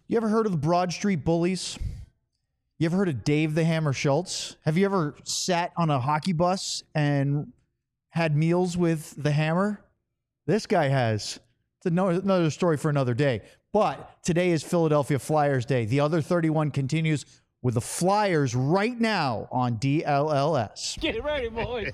You ever heard of the Broad Street Bullies? You ever heard of Dave the Hammer Schultz? Have you ever sat on a hockey bus and had meals with the Hammer? This guy has. It's another story for another day. But today is Philadelphia Flyers Day. The other 31 continues with the Flyers right now on DLLS. Get ready, boys.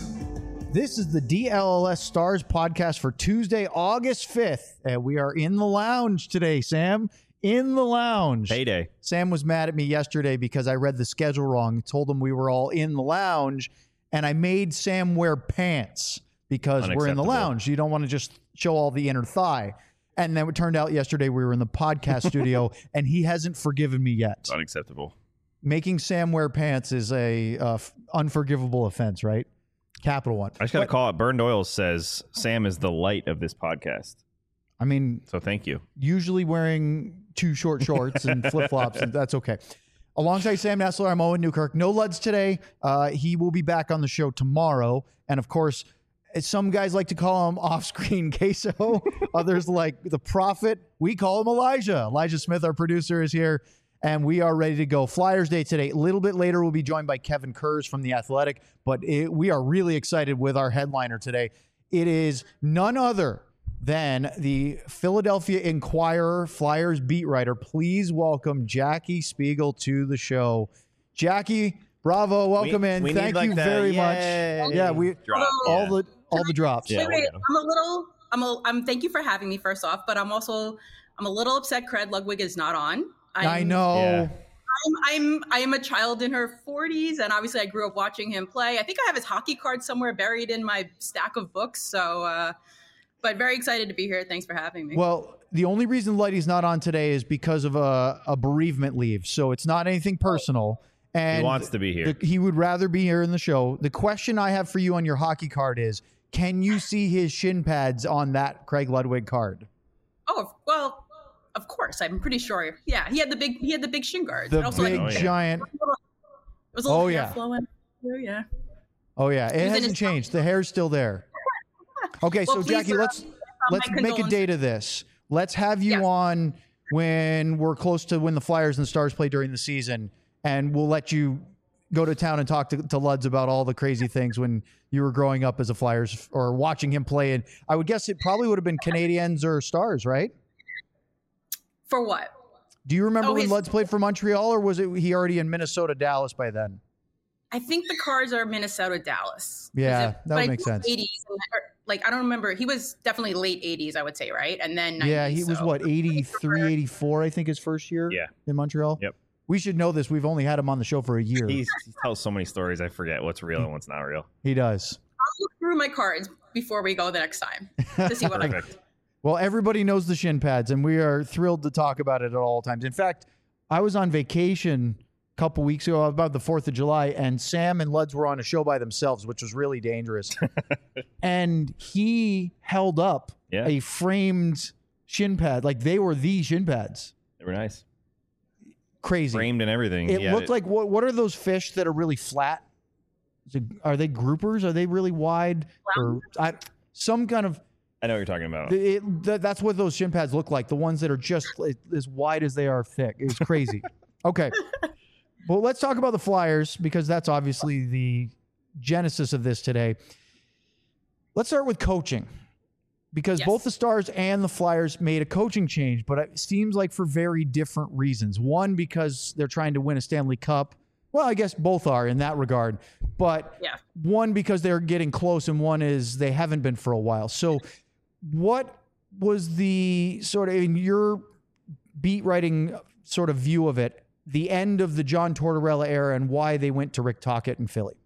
This is the DLLS Stars podcast for Tuesday, August 5th. And we are in the lounge today, Sam. In the lounge. Payday. Sam was mad at me yesterday because I read the schedule wrong. Told him we were all in the lounge, and I made Sam wear pants because we're in the lounge. You don't want to just show all the inner thigh. And then it turned out yesterday we were in the podcast studio, and he hasn't forgiven me yet. Unacceptable. Making Sam wear pants is a unforgivable offense, right? Capital one. I just got to call it. Burned Oil says Sam is the light of this podcast. I mean, so thank you. Usually wearing too short shorts and flip-flops, and that's okay. Alongside Sam Nessler, I'm Owen Newkirk. No Luds today. He will be back on the show tomorrow. And, of course, some guys like to call him off-screen Queso. Others like the Prophet. We call him Elijah. Elijah Smith, our producer, is here, and we are ready to go. Flyers Day today. A little bit later, we'll be joined by Kevin Kurz from The Athletic, but we are really excited with our headliner today. It is none other than the Philadelphia Inquirer Flyers beat writer. Please welcome Jackie Spiegel to the show. Jackie, bravo, welcome in. Thank you very much. Yeah, all the drops. Yeah, wait, thank you for having me first off, but I'm a little upset Craig Ludwig is not on. I know. Yeah. I am a child in her 40s, and obviously I grew up watching him play. I think I have his hockey card somewhere buried in my stack of books. So, but very excited to be here. Thanks for having me. Well, the only reason Lighty's not on today is because of a bereavement leave. So it's not anything personal. And he wants to be here. He would rather be here in the show. The question I have for you on your hockey card is, can you see his shin pads on that Craig Ludwig card? Oh, well, of course. I'm pretty sure. Yeah, he had the big shin guards. The big giant. It was a little hair flowing. Yeah. Oh yeah, it hasn't changed. The hair's still there. Okay, well, so Jackie, let's make a date of this. Let's have you on when we're close to when the Flyers and the Stars play during the season, and we'll let you go to town and talk to Luds about all the crazy things when you were growing up as a Flyers or watching him play. And I would guess it probably would have been Canadiens or Stars, right? For what? Do you remember when Luds played for Montreal, or was it he already in Minnesota, Dallas by then? I think the Cards are Minnesota, Dallas. Yeah, that would make sense. 80s, I don't remember. He was definitely late 80s, I would say, right? And then 90s, yeah, he was what, 83, 84, I think his first year in Montreal? Yep. We should know this. We've only had him on the show for a year. He tells so many stories, I forget what's real and what's not real. He does. I'll look through my cards before we go the next time to see what I got. Well, everybody knows the shin pads, and we are thrilled to talk about it at all times. In fact, I was on vacation a couple weeks ago, about the 4th of July, and Sam and Luds were on a show by themselves, which was really dangerous. And he held up a framed shin pad. Like, they were the shin pads. They were nice. Crazy. Framed and everything. It looked like, what are those fish that are really flat? Are they groupers? Are they really wide? Or some kind of... I know what you're talking about. That's what those shin pads look like. The ones that are just as wide as they are thick. It's crazy. Okay. Well, let's talk about the Flyers because that's obviously the genesis of this today. Let's start with coaching because both the Stars and the Flyers made a coaching change, but it seems like for very different reasons. One, because they're trying to win a Stanley Cup. Well, I guess both are in that regard. But one, because they're getting close, and one is they haven't been for a while. So what was the sort of, in your beat writing sort of view of it, the end of the John Tortorella era and why they went to Rick Tocchet in Philly?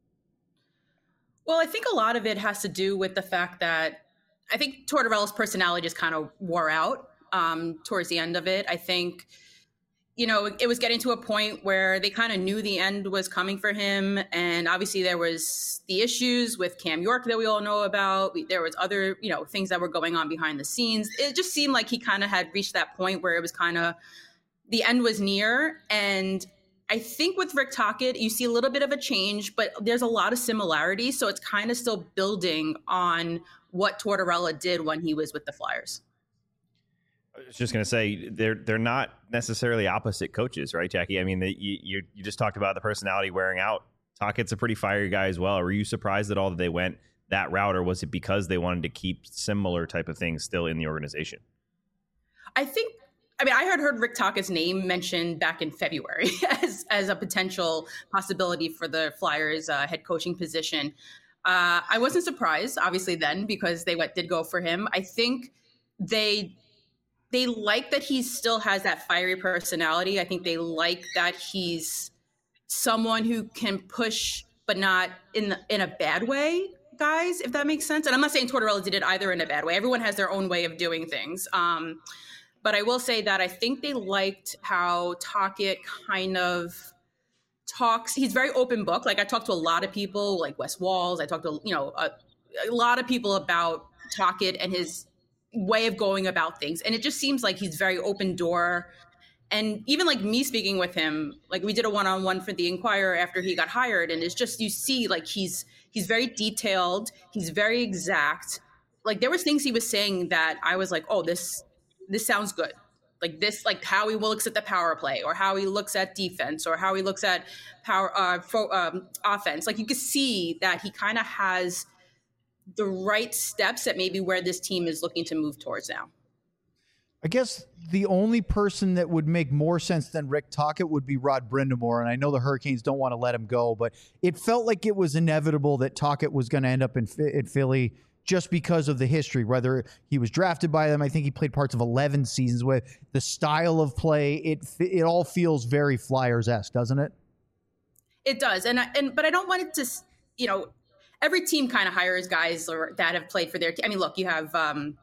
Well, I think a lot of it has to do with the fact that I think Tortorella's personality just kind of wore out towards the end of it. I think, it was getting to a point where they kind of knew the end was coming for him. And obviously there was the issues with Cam York that we all know about. There was other, things that were going on behind the scenes. It just seemed like he kind of had reached that point where it was kind of, the end was near. And I think with Rick Tocchet, you see a little bit of a change, but there's a lot of similarities. So it's kind of still building on what Tortorella did when he was with the Flyers. I was just going to say they're not necessarily opposite coaches, right, Jackie? I mean, you just talked about the personality wearing out. Tockett's a pretty fiery guy as well. Were you surprised at all that they went that route, or was it because they wanted to keep similar type of things still in the organization? I had heard Rick Tockett's name mentioned back in February as a potential possibility for the Flyers head coaching position. I wasn't surprised, obviously, then, because they did go for him. I think they like that he still has that fiery personality. I think they like that he's someone who can push, but not in a bad way, guys, if that makes sense. And I'm not saying Tortorella did it either in a bad way. Everyone has their own way of doing things. But I will say that I think they liked how Tocchet kind of talks. He's very open book. Like, I talked to a lot of people, like Wes Walls. I talked to a lot of people about Tocchet and his way of going about things. And it just seems like he's very open door. And even like me speaking with him, like we did a one-on-one for the Inquirer after he got hired. And it's just, you see, like he's very detailed. He's very exact. Like there was things he was saying that I was like, oh, this sounds good. Like this, like how he looks at the power play, or how he looks at defense, or how he looks at offense. Like you could see that he kind of has the right steps at maybe where this team is looking to move towards now. I guess the only person that would make more sense than Rick Tocchet would be Rod Brind'Amour, and I know the Hurricanes don't want to let him go, but it felt like it was inevitable that Tocchet was going to end up in Philly just because of the history, whether he was drafted by them. I think he played parts of 11 seasons with the style of play. It all feels very Flyers-esque, doesn't it? It does. But I don't want it to, every team kind of hires guys that have played for their team. I mean, look, you have Ryan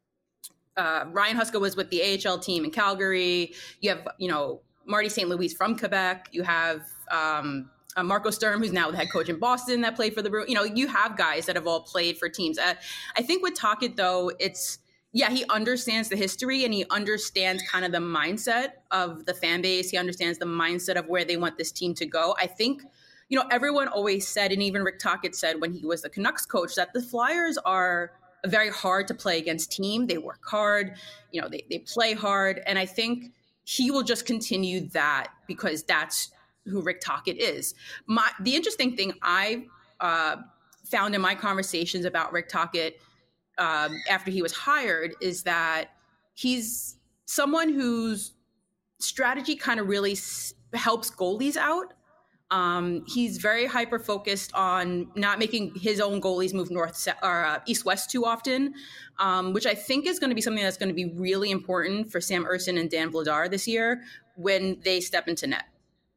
Huska was with the AHL team in Calgary. You have, Marty St. Louis from Quebec. You have Marco Sturm, who's now the head coach in Boston, that played for the Bruins. You have guys that have all played for teams. I think with Tocchet, though, he understands the history and he understands kind of the mindset of the fan base. He understands the mindset of where they want this team to go. I think, everyone always said, and even Rick Tocchet said when he was the Canucks coach, that the Flyers are a very hard to play against team. They work hard, they play hard. And I think he will just continue that because that's who Rick Tocchet is. The interesting thing I found in my conversations about Rick Tocchet after he was hired is that he's someone whose strategy kind of really helps goalies out. He's very hyper focused on not making his own goalies move north or east-west too often, which I think is going to be something that's going to be really important for Sam Ersson and Dan Vladar this year when they step into net.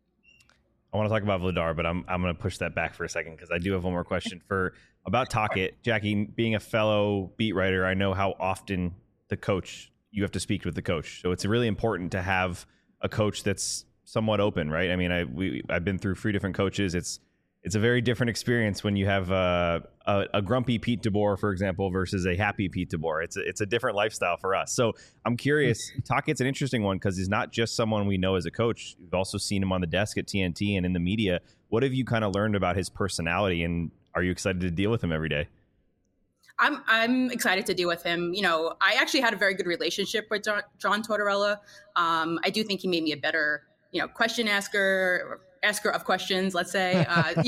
I want to talk about Vladar, but I'm going to push that back for a second because I do have one more question about Tocchet. Jackie, being a fellow beat writer, I know how often you have to speak with the coach. So it's really important to have a coach that's somewhat open, right? I mean, I've been through 3 different coaches. It's a very different experience when you have a grumpy Pete DeBoer, for example, versus a happy Pete DeBoer. It's a different lifestyle for us. So I'm curious, Tocchet's an interesting one because he's not just someone we know as a coach. We've also seen him on the desk at TNT and in the media. What have you kind of learned about his personality, and are you excited to deal with him every day? I'm excited to deal with him. I actually had a very good relationship with John Tortorella. I do think he made me a better, question asker of questions, let's say.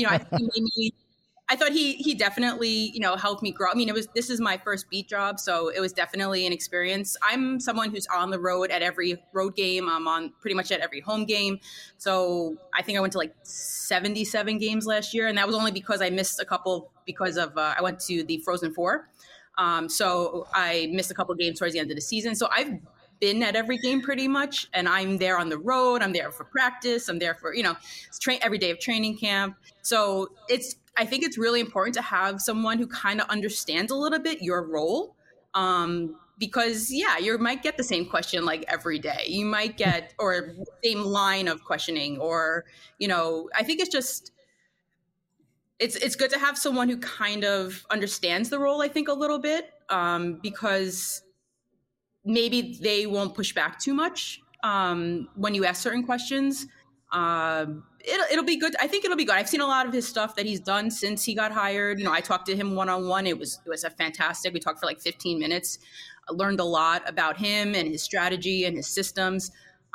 I thought he definitely, helped me grow. I mean, this is my first beat job, so it was definitely an experience. I'm someone who's on the road at every road game. I'm on pretty much at every home game. So I think I went to like 77 games last year, and that was only because I missed a couple because of I went to the Frozen Four. So I missed a couple games towards the end of the season. So I've been at every game pretty much, and I'm there on the road. I'm there for practice. I'm there for, every day of training camp. So I think it's really important to have someone who kind of understands a little bit your role. Because you might get the same question like every day. You might get, or same line of questioning, or, I think it's just, it's good to have someone who kind of understands the role, I think, a little bit, because maybe they won't push back too much when you ask certain questions. It'll be good. I think it'll be good. I've seen a lot of his stuff that he's done since he got hired. I talked to him one-on-one. It was a fantastic. We talked for like 15 minutes. I learned a lot about him and his strategy and his systems.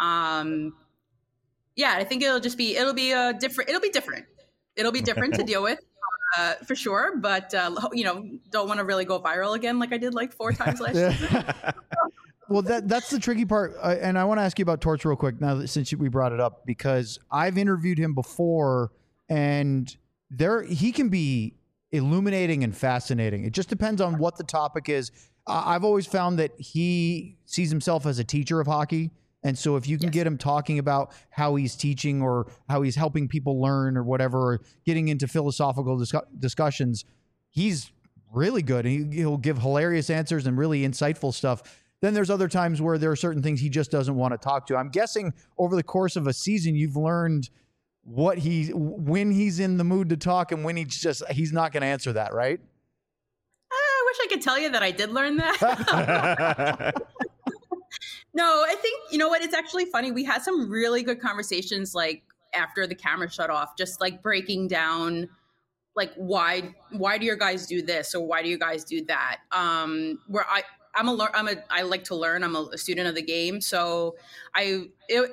Yeah, I think it'll be different. It'll be different to deal with. For sure, but don't want to really go viral again like I did like 4 times last year. Well, that's the tricky part, and I want to ask you about Torch real quick now since we brought it up, because I've interviewed him before, and he can be illuminating and fascinating. It just depends on what the topic is. I've always found that he sees himself as a teacher of hockey. And so if you can get him talking about how he's teaching or how he's helping people learn or whatever, or getting into philosophical discussions, he's really good. He'll give hilarious answers and really insightful stuff. Then there's other times where there are certain things he just doesn't want to talk to. I'm guessing over the course of a season, you've learned when he's in the mood to talk and when he's not going to answer that, right? I wish I could tell you that I did learn that. No, I think, you know what, it's actually funny. We had some really good conversations like after the camera shut off, just like breaking down like why do your guys do this or why do you guys do that? Where I like to learn. I'm a student of the game, so it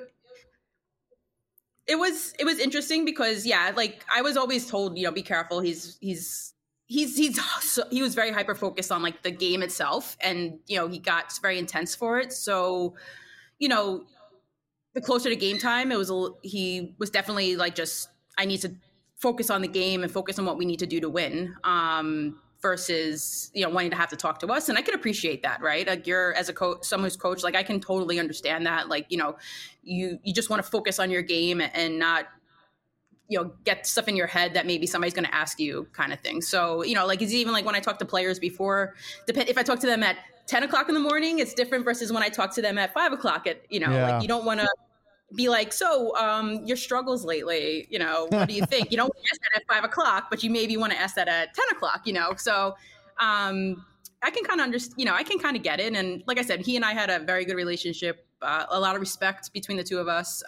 was interesting because like I was always told, be careful. He was very hyper focused on like the game itself, and he got very intense for it. So, the closer to game time, he was definitely like, just I need to focus on the game and focus on what we need to do to win. Versus wanting to have to talk to us, and I can appreciate that, right? Like you're as a coach, someone who's coached, like I can totally understand that. Like you just want to focus on your game and not get stuff in your head that maybe somebody's going to ask you, kind of thing. So like it's even like when I talk to players before, if I talk to them at 10 o'clock in the morning, it's different versus when I talk to them at 5 o'clock. Like you don't want to be like, so your struggles lately, what do you think? You don't want to ask that at 5 o'clock, but you maybe want to ask that at 10 o'clock, So I can kind of understand, I can kind of get it. And like I said, he and I had a very good relationship, a lot of respect between the two of us.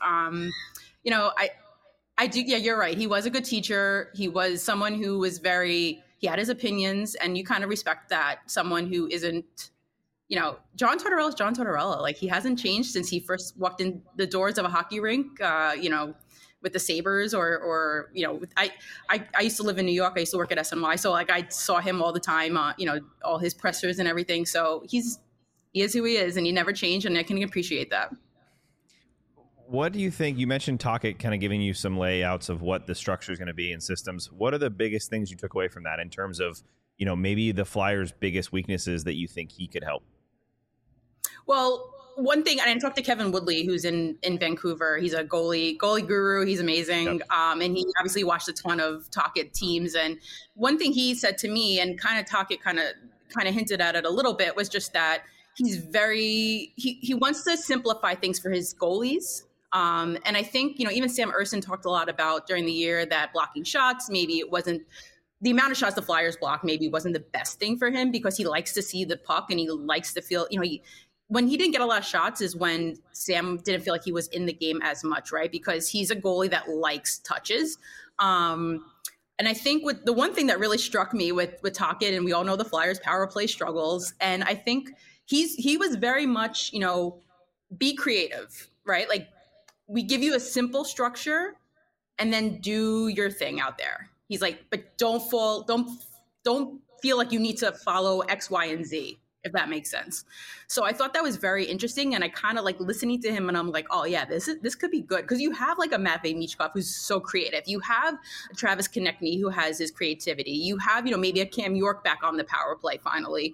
I do. Yeah, you're right. He was a good teacher. He was someone who was he had his opinions, and you kind of respect that. Someone who isn't, John Tortorella is John Tortorella. Like he hasn't changed since he first walked in the doors of a hockey rink, with the Sabres or I used to live in New York. I used to work at SNY. So like I saw him all the time, all his pressers and everything. So he is who he is, and he never changed, and I can appreciate that. What do you think? You mentioned Tocchet kind of giving you some layouts of what the structure is going to be in systems. What are the biggest things you took away from that in terms of, maybe the Flyers' biggest weaknesses that you think he could help? Well, one thing, and I talked to Kevin Woodley, who's in Vancouver. He's a goalie guru. He's amazing. Yep. And he obviously watched a ton of Tocchet teams. And one thing he said to me, and kind of Tocchet kind of hinted at it a little bit, was just that he's he wants to simplify things for his goalies. And I think, even Sam Ersson talked a lot about during the year that blocking shots, maybe it wasn't the amount of shots the Flyers block, maybe wasn't the best thing for him because he likes to see the puck and he likes to feel, when he didn't get a lot of shots is when Sam didn't feel like he was in the game as much, right? Because he's a goalie that likes touches. And I think the one thing that really struck me with Tocchet, and we all know the Flyers power play struggles. And I think he was very much, be creative, right? Like, we give you a simple structure and then do your thing out there. He's like, but don't feel like you need to follow X, Y, and Z, if that makes sense. So I thought that was very interesting. And I kind of like listening to him and I'm like, oh yeah, this could be good. Cause you have like a Matvei Michkov who's so creative. You have a Travis Konecny who has his creativity. You have, maybe a Cam York back on the power play finally.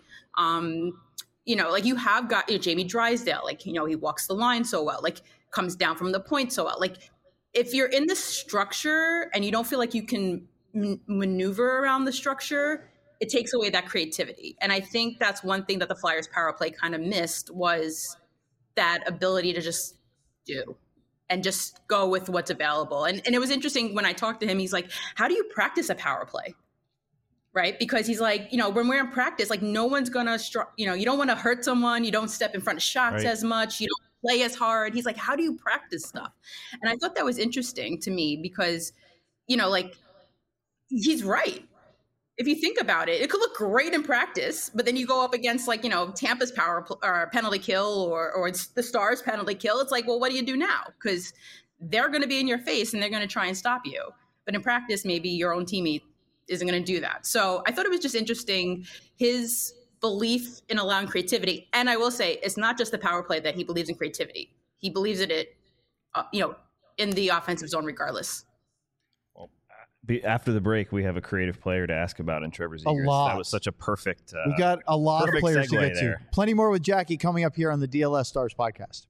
Like you have got Jamie Drysdale, like, he walks the line so well, like comes down from the point so well. Like if you're in the structure and you don't feel like you can maneuver around the structure, it takes away that creativity. And I think that's one thing that the Flyers power play kind of missed was that ability to just do and just go with what's available. And it was interesting when I talked to him, he's like, how do you practice a power play? Right? Because he's like, when we're in practice, like no one's going to, you don't want to hurt someone. You don't step in front of shots as much. You don't play as hard. He's like, how do you practice stuff? And I thought that was interesting to me because, like, he's right. if you think about it, it could look great in practice, but then you go up against like, Tampa's or penalty kill or it's the Stars penalty kill. It's like, well, what do you do now? Because they're going to be in your face and they're going to try and stop you. But in practice, maybe your own teammate isn't going to do that. So I thought it was just interesting, his belief in allowing creativity. And I will say, it's not just the power play that he believes in creativity. He believes in it, in the offensive zone regardless. After the break, we have a creative player to ask about in Trevor Zegras. A lot. That was such a perfect. We got a lot of players to get there. to. Plenty more with Jackie coming up here on the DLS Stars podcast.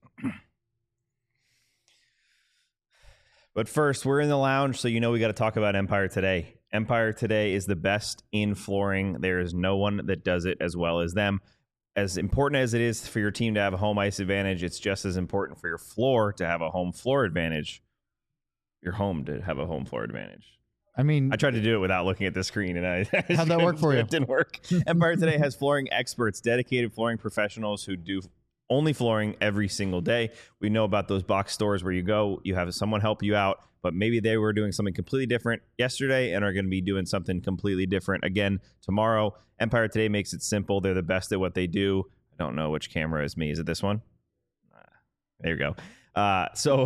But first, we're in the lounge, so we got to talk about Empire Today. Empire Today is the best in flooring. There is no one that does it as well as them. As important as it is for your team to have a home ice advantage, it's just as important for your floor to have a home floor advantage. Your home to have a home floor advantage. I mean, I tried to do it without looking at the screen, and how'd that work for you? It didn't work. Empire Today has flooring experts, dedicated flooring professionals who do only flooring every single day. We know about those box stores where you go, you have someone help you out, but maybe they were doing something completely different yesterday and are going to be doing something completely different again tomorrow. Empire Today makes it simple. They're the best at what they do. I don't know which camera is me. Is it this one? There you go. So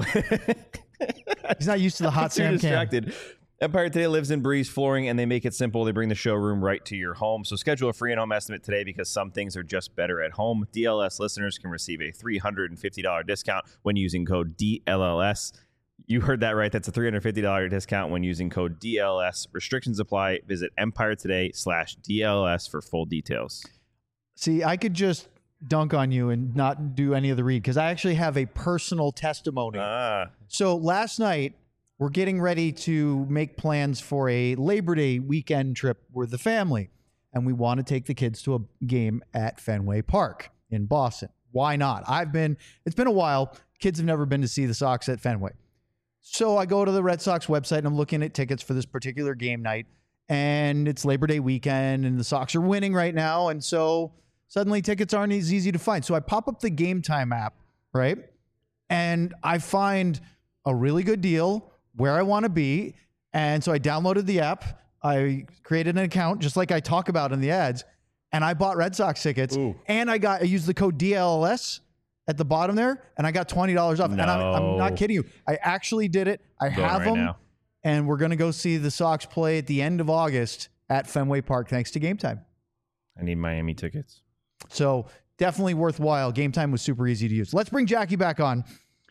he's not used to the hot Sam distracted. Empire Today lives and breathes flooring, and they make it simple. They bring the showroom right to your home. So schedule a free in-home estimate today because some things are just better at home. DLS listeners can receive a $350 discount when using code DLLS. You heard that right. That's a $350 discount when using code DLS. Restrictions apply. Visit EmpireToday.com/DLS for full details. See, I could just dunk on you and not do any of the read because I actually have a personal testimony. So last night, we're getting ready to make plans for a Labor Day weekend trip with the family, and we want to take the kids to a game at Fenway Park in Boston. Why not? It's been a while. Kids have never been to see the Sox at Fenway. So I go to the Red Sox website and I'm looking at tickets for this particular game night, and it's Labor Day weekend and the Sox are winning right now. And so suddenly tickets aren't as easy to find. So I pop up the Game Time app, right? And I find a really good deal where I want to be. And so I downloaded the app. I created an account just like I talk about in the ads. And I bought Red Sox tickets. Ooh. And I used the code DLS at the bottom there. And I got $20 off. No. And I'm not kidding you. I actually did it. I have right them. now. And we're going to go see the Sox play at the end of August at Fenway Park thanks to Game Time. I need Miami tickets. So definitely worthwhile. Game Time was super easy to use. Let's bring Jackie back on.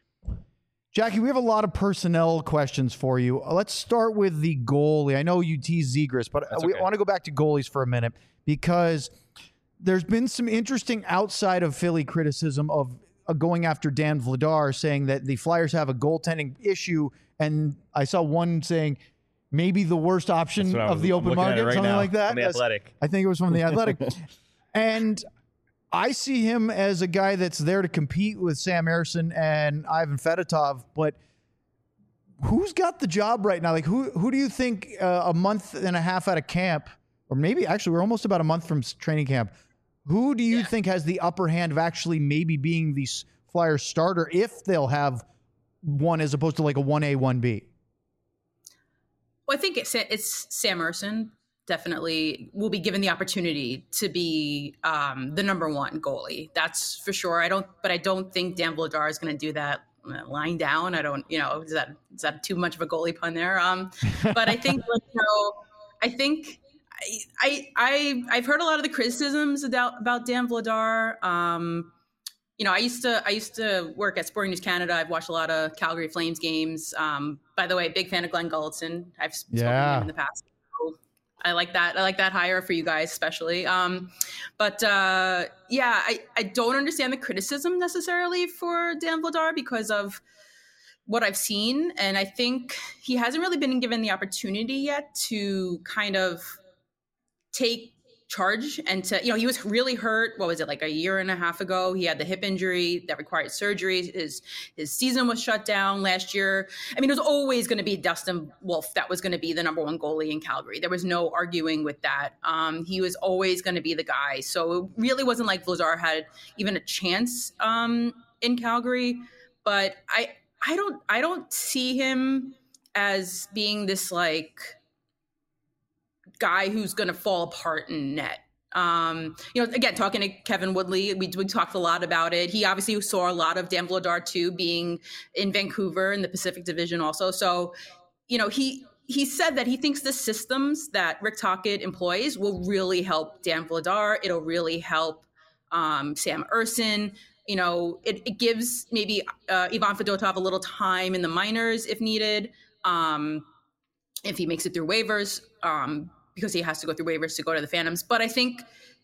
Jackie, we have a lot of personnel questions for you. Let's start with the goalie. I know you teased Zegras, but That's we okay. want to go back to goalies for a minute because there's been some interesting outside of Philly criticism of going after Dan Vladar, saying that the Flyers have a goaltending issue. And I saw one saying maybe the worst option of the open market, something like that. On the Athletic. I think it was from the Athletic. And I see him as a guy that's there to compete with Sam Ersson and Ivan Fedotov, but who's got the job right now? Like, who do you think a month and a half out of camp, or maybe actually we're almost about a month from training camp, who do you think has the upper hand of actually maybe being the Flyers starter if they'll have one as opposed to like a 1A, 1B? Well, I think it's Sam Ersson. Definitely will be given the opportunity to be the number one goalie. That's for sure. I don't think Dan Vladar is going to do that lying down. I don't, is that too much of a goalie pun there? But I think, I've heard a lot of the criticisms about Dan Vladar. I used to work at Sporting News Canada. I've watched a lot of Calgary Flames games. By the way, big fan of Glenn Gulletson. I've spoken to him in the past. I like that. I like that hire for you guys, especially. I don't understand the criticism necessarily for Dan Vladar because of what I've seen. And I think he hasn't really been given the opportunity yet to kind of take charge and to, he was really hurt. What was it, like a year and a half ago? He had the hip injury that required surgery. His season was shut down last year. I mean, it was always going to be Dustin Wolf that was going to be the number one goalie in Calgary. There was no arguing with that. He was always going to be the guy. So it really wasn't like Vladar had even a chance in Calgary. But I don't see him as being this like guy who's going to fall apart in net. Again, talking to Kevin Woodley, we talked a lot about it. He obviously saw a lot of Dan Vladar too, being in Vancouver in the Pacific Division also. So, he said that he thinks the systems that Rick Tocchet employs will really help Dan Vladar. It'll really help Sam Ersson. It gives maybe Ivan Fedotov a little time in the minors if needed, if he makes it through waivers. Because he has to go through waivers to go to the Phantoms. But I think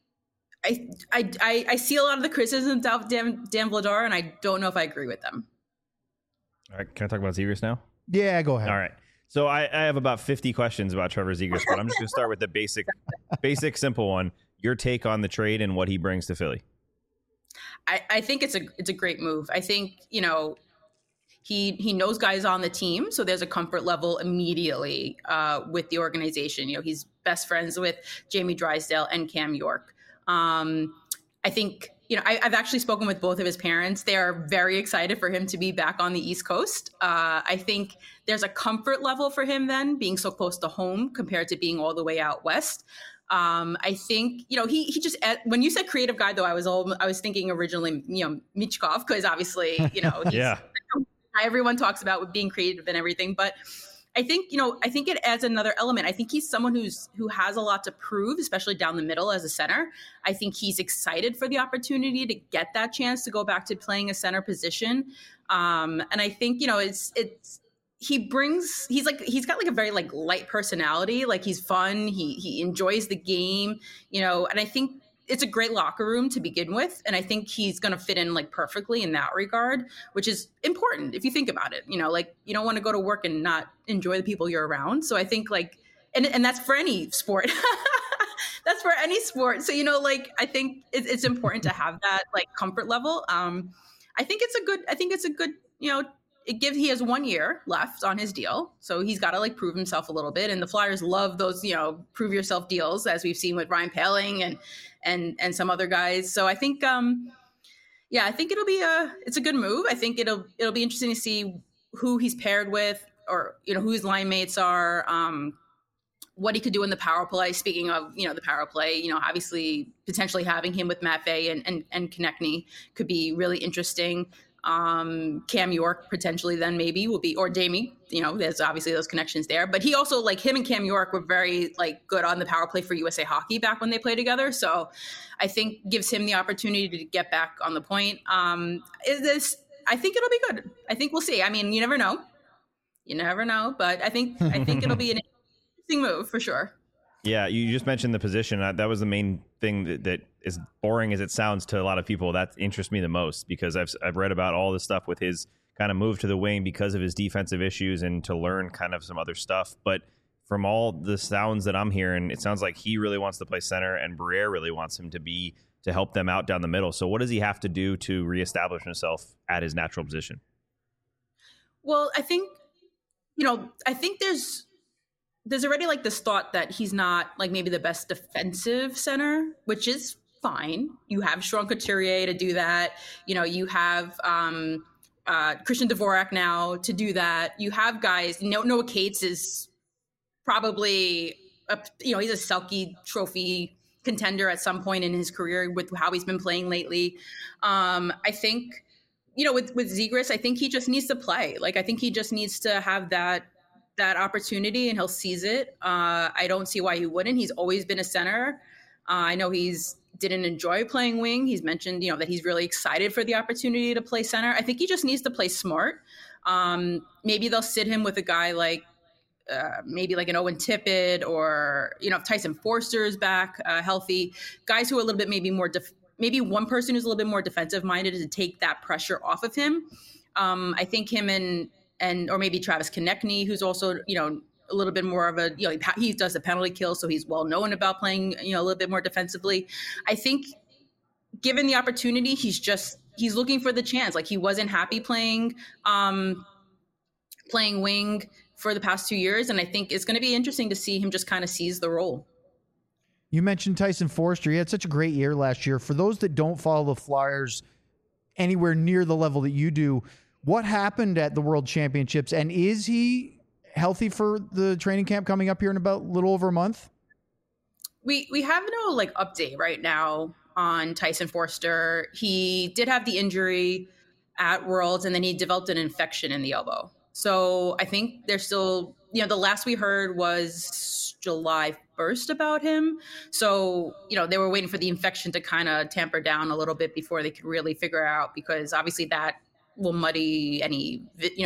I see a lot of the criticisms of Dan Vladar, and I don't know if I agree with them. All right, can I talk about Zegras now? Yeah, go ahead. All right. So I have about 50 questions about Trevor Zegras, but I'm just going to start with the basic, simple one. Your take on the trade and what he brings to Philly. I think it's a great move. I think, he knows guys on the team, so there's a comfort level immediately with the organization. He's best friends with Jamie Drysdale and Cam York. I think, I've actually spoken with both of his parents. They are very excited for him to be back on the East Coast. I think there's a comfort level for him then, being so close to home compared to being all the way out west. I think, he just, when you said creative guy, though, I was thinking originally, Michkov, because obviously, he's yeah. Everyone talks about with being creative and everything, but I think it adds another element. I think he's someone who has a lot to prove, especially down the middle as a center. I think he's excited for the opportunity to get that chance to go back to playing a center position. And I think, he's got like a very like light personality. Like he's fun. He enjoys the game, and I think it's a great locker room to begin with. And I think he's going to fit in like perfectly in that regard, which is important if you think about it. Like you don't want to go to work and not enjoy the people you're around. So I think like, and that's for any sport. That's for any sport. So, I think it's important to have that like comfort level. I think it's a good, he has 1 year left on his deal. So he's got to like prove himself a little bit. And the Flyers love those, prove yourself deals, as we've seen with Ryan Poehling and some other guys. So I think, I think it's a good move. I think it'll be interesting to see who he's paired with, or, who his line mates are, what he could do in the power play. Speaking of, the power play, obviously potentially having him with Matt Fay and Konechny could be really interesting. Cam York potentially then maybe will be, or Jamie, there's obviously those connections there, but he also, like, him and Cam York were very like good on the power play for USA Hockey back when they played together. So I think gives him the opportunity to get back on the point. I think it'll be good. I think we'll see. I mean, you never know, but I think it'll be an interesting move for sure. Yeah, you just mentioned the position. That was the main thing that as boring as it sounds to a lot of people, that interests me the most, because I've read about all this stuff with his kind of move to the wing because of his defensive issues and to learn kind of some other stuff. But from all the sounds that I'm hearing, it sounds like he really wants to play center and Briere really wants him to help them out down the middle. So what does he have to do to reestablish himself at his natural position? Well, I think there's already like this thought that he's not like maybe the best defensive center, which is fine. You have Sean Couturier to do that. You have Christian Dvorak now to do that. You have guys. Noah Cates is probably he's a Selke Trophy contender at some point in his career with how he's been playing lately. I think with Zegras, I think he just needs to play. Like I think he just needs to have that opportunity, and he'll seize it. I don't see why he wouldn't. He's always been a center. I know didn't enjoy playing wing. He's mentioned, that he's really excited for the opportunity to play center. I think he just needs to play smart. Maybe they'll sit him with a guy like maybe like an Owen Tippett, or, if Tyson Forster is back healthy, guys who are a little bit maybe more, maybe one person who's a little bit more defensive minded to take that pressure off of him. I think him or maybe Travis Konechny, who's also, a little bit more of a, he does the penalty kill, so he's well known about playing, a little bit more defensively. I think given the opportunity, he's looking for the chance. Like he wasn't happy playing wing for the past 2 years. And I think it's going to be interesting to see him just kind of seize the role. You mentioned Tyson Forster. He had such a great year last year. For those that don't follow the Flyers anywhere near the level that you do, what happened at the World Championships, and is he healthy for the training camp coming up here in about a little over a month? We have no like update right now on Tyson Forster. He did have the injury at Worlds, and then he developed an infection in the elbow. So I think they're still, the last we heard was July 1st about him. So, they were waiting for the infection to kind of tamper down a little bit before they could really figure out, because obviously that will muddy any,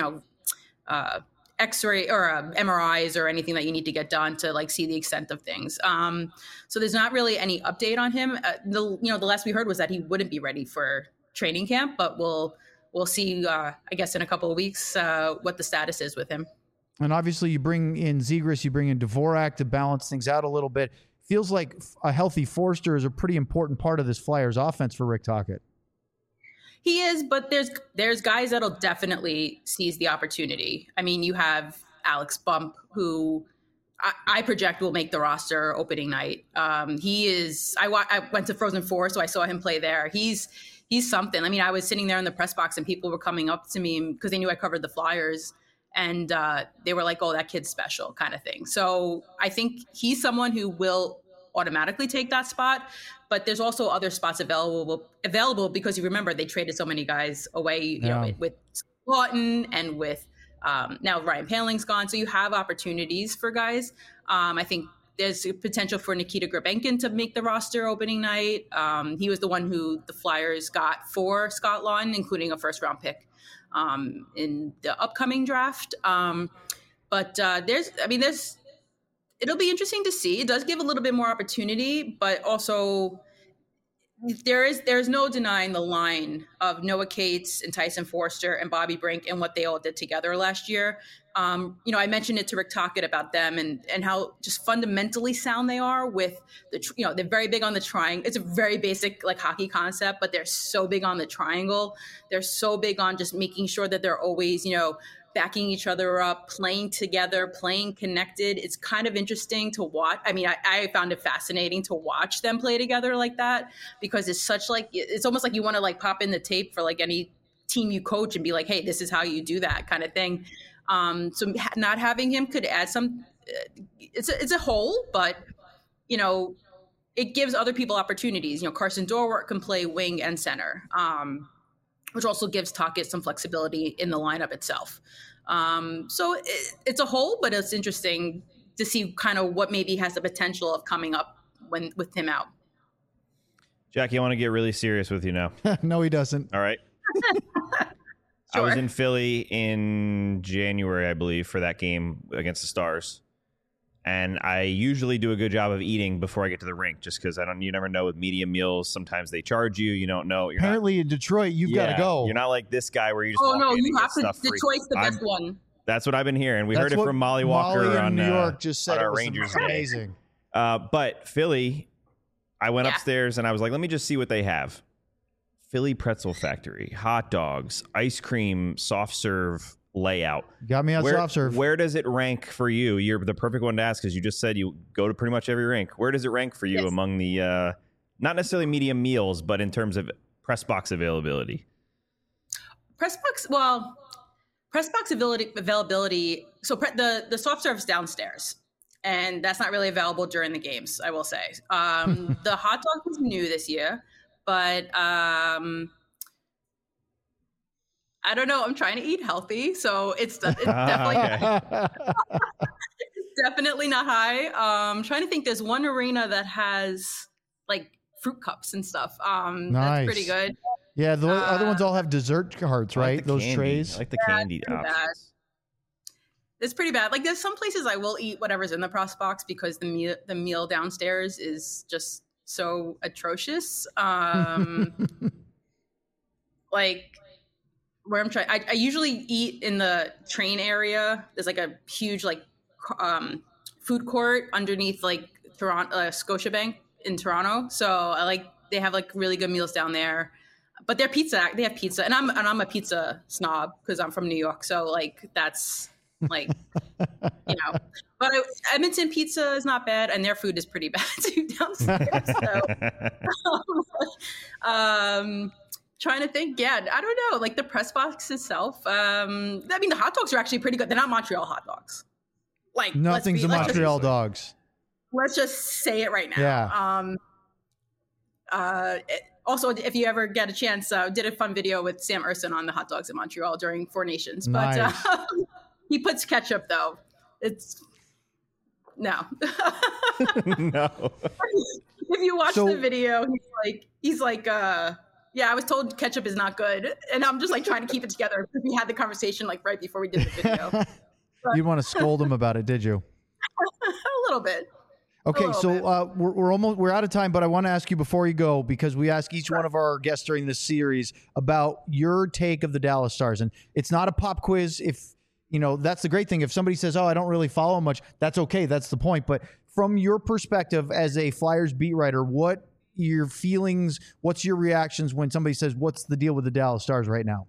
X-ray or MRIs or anything that you need to get done to like see the extent of things. So there's not really any update on him. The last we heard was that he wouldn't be ready for training camp, but we'll see, I guess in a couple of weeks, what the status is with him. And obviously you bring in Zegras, you bring in Dvorak to balance things out a little bit. Feels like a healthy Forster is a pretty important part of this Flyers offense for Rick Tocchet. He is, but there's guys that'll definitely seize the opportunity. I mean, you have Alex Bump, who I project will make the roster opening night. He is. I went to Frozen Four, so I saw him play there. He's something. I mean, I was sitting there in the press box, and people were coming up to me because they knew I covered the Flyers, and they were like, "Oh, that kid's special," kind of thing. So I think he's someone who will automatically take that spot. But there's also other spots available because you remember they traded so many guys away, with Lawton and with now Ryan Poehling's gone. So you have opportunities for guys. I think there's potential for Nikita Grabenkin to make the roster opening night. He was the one who the Flyers got for Scott Lawton, including a first-round pick in the upcoming draft. But it'll be interesting to see. It does give a little bit more opportunity, but also there's no denying the line of Noah Cates and Tyson Forster and Bobby Brink and what they all did together last year. I mentioned it to Rick Tocchet about them and how just fundamentally sound they are with they're very big on the triangle. It's a very basic like hockey concept, but they're so big on the triangle. They're so big on just making sure that they're always, backing each other up, playing together, playing connected. It's kind of interesting to watch. I mean, I found it fascinating to watch them play together like that, because it's such like, it's almost like you want to like pop in the tape for like any team you coach and be like, hey, this is how you do that kind of thing. So not having him could add some, it's a hole, but it gives other people opportunities. Carson Dorwart can play wing and center, which also gives Tocchet some flexibility in the lineup itself. So it's a hole, but it's interesting to see kind of what maybe has the potential of coming up with him out. Jackie, I want to get really serious with you now. No, he doesn't. All right. Sure. I was in Philly in January, I believe, for that game against the Stars. And I usually do a good job of eating before I get to the rink, just because you never know with medium meals. Sometimes they charge you. You don't know. Apparently in Detroit, you've got to go. You're not like this guy where you just walk in and you have get to. Detroit's the best one. That's what I've been hearing. We heard it from Molly Walker on New York. Just said on it our was Rangers amazing. But Philly, I went upstairs and I was like, let me just see what they have. Philly Pretzel Factory, hot dogs, ice cream, soft serve layout. Got me on soft serve. Where does it rank for you? You're the perfect one to ask, because you just said you go to pretty much every rink. Where does it rank for you among the not necessarily medium meals, but in terms of press box availability? Press box availability. So the soft serve's downstairs, and that's not really available during the games, I will say. The hot dog was new this year, but I don't know. I'm trying to eat healthy, so it's definitely it's definitely not high. I'm trying to think. There's one arena that has like fruit cups and stuff. Nice. That's pretty good. Yeah, the other ones all have dessert carts, right? Like those candy. trays. I like the candy options. It's pretty bad. Like there's some places I will eat whatever's in the press box because the meal downstairs is just so atrocious. Like where I'm trying, I usually eat in the train area. There's like a huge like food court underneath like Toronto, Scotiabank in Toronto. So they have like really good meals down there. But they have pizza, and I'm a pizza snob because I'm from New York. So like that's like But Edmonton pizza is not bad, and their food is pretty bad too downstairs. So, trying to think. Yeah, I don't know. Like the press box itself. I mean, the hot dogs are actually pretty good. They're not Montreal hot dogs. Like nothing's a Montreal dogs. Let's just say it right now. Yeah. Also, if you ever get a chance, did a fun video with Sam Erson on the hot dogs in Montreal during Four Nations. But Nice. he puts ketchup, though. It's no. No. If you watch the video, he's like, yeah, I was told ketchup is not good. And I'm just like trying to keep it together. We had the conversation like right before we did the video. You didn't want to scold him about it, did you? A little bit. Okay, so we're out of time, but I want to ask you before you go, because we ask each one of our guests during this series about your take of the Dallas Stars, and it's not a pop quiz. If you know, that's the great thing. If somebody says, "Oh, I don't really follow much," that's okay. That's the point. But from your perspective as a Flyers beat writer, what your feelings? What's your reactions when somebody says, "What's the deal with the Dallas Stars right now?"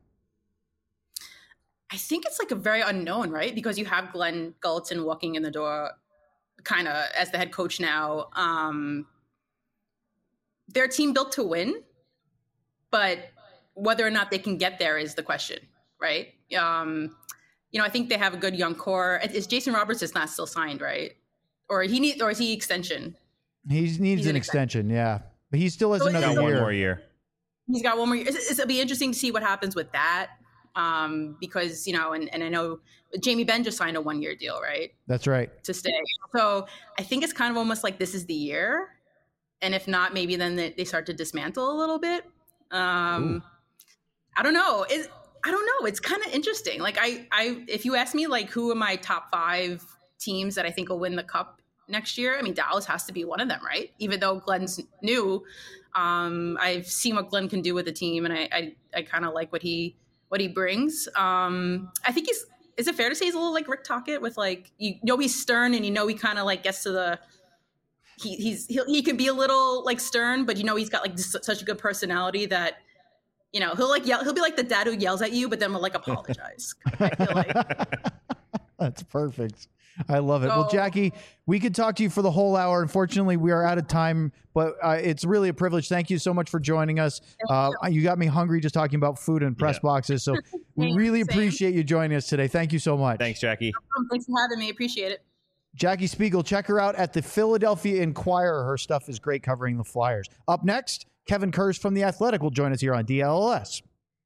I think it's like a very unknown, right? Because you have Glenn Gulutzan walking in the door kind of as the head coach now. They're a team built to win, but whether or not they can get there is the question, right? You know, I think they have a good young core. Is Jason Roberts is not still signed, right? Or is he extension? He needs an extension, yeah. But he still has another year. One more year. He's got one more year. It'll be interesting to see what happens with that. Because, you know, and I know Jamie Benn just signed a 1-year deal, right? That's right. To stay. So I think it's kind of almost like this is the year. And if not, maybe then they start to dismantle a little bit. I don't know. I don't know. It's kind of interesting. Like if you ask me, like, who are my top 5 teams that I think will win the Cup next year? I mean, Dallas has to be one of them, right? Even though Glenn's new, I've seen what Glenn can do with the team, and I kind of like what he brings. I think is it fair to say he's a little like Rick Tocchet with, like, you know, he's stern, and you know, he kind of like gets to the, he can be a little like stern, but you know, he's got like such a good personality that, you know, he'll like yell, he'll be like the dad who yells at you, but then will like apologize. I feel like. That's perfect. I love it. Well, Jackie, we could talk to you for the whole hour. Unfortunately, we are out of time, but it's really a privilege. Thank you so much for joining us. You got me hungry just talking about food and press boxes. So we really appreciate you joining us today. Thank you so much. Thanks, Jackie. Thanks for having me. Appreciate it. Jackie Spiegel, check her out at the Philadelphia Inquirer. Her stuff is great covering the Flyers. Up next, Kevin Kurz from The Athletic will join us here on DLS.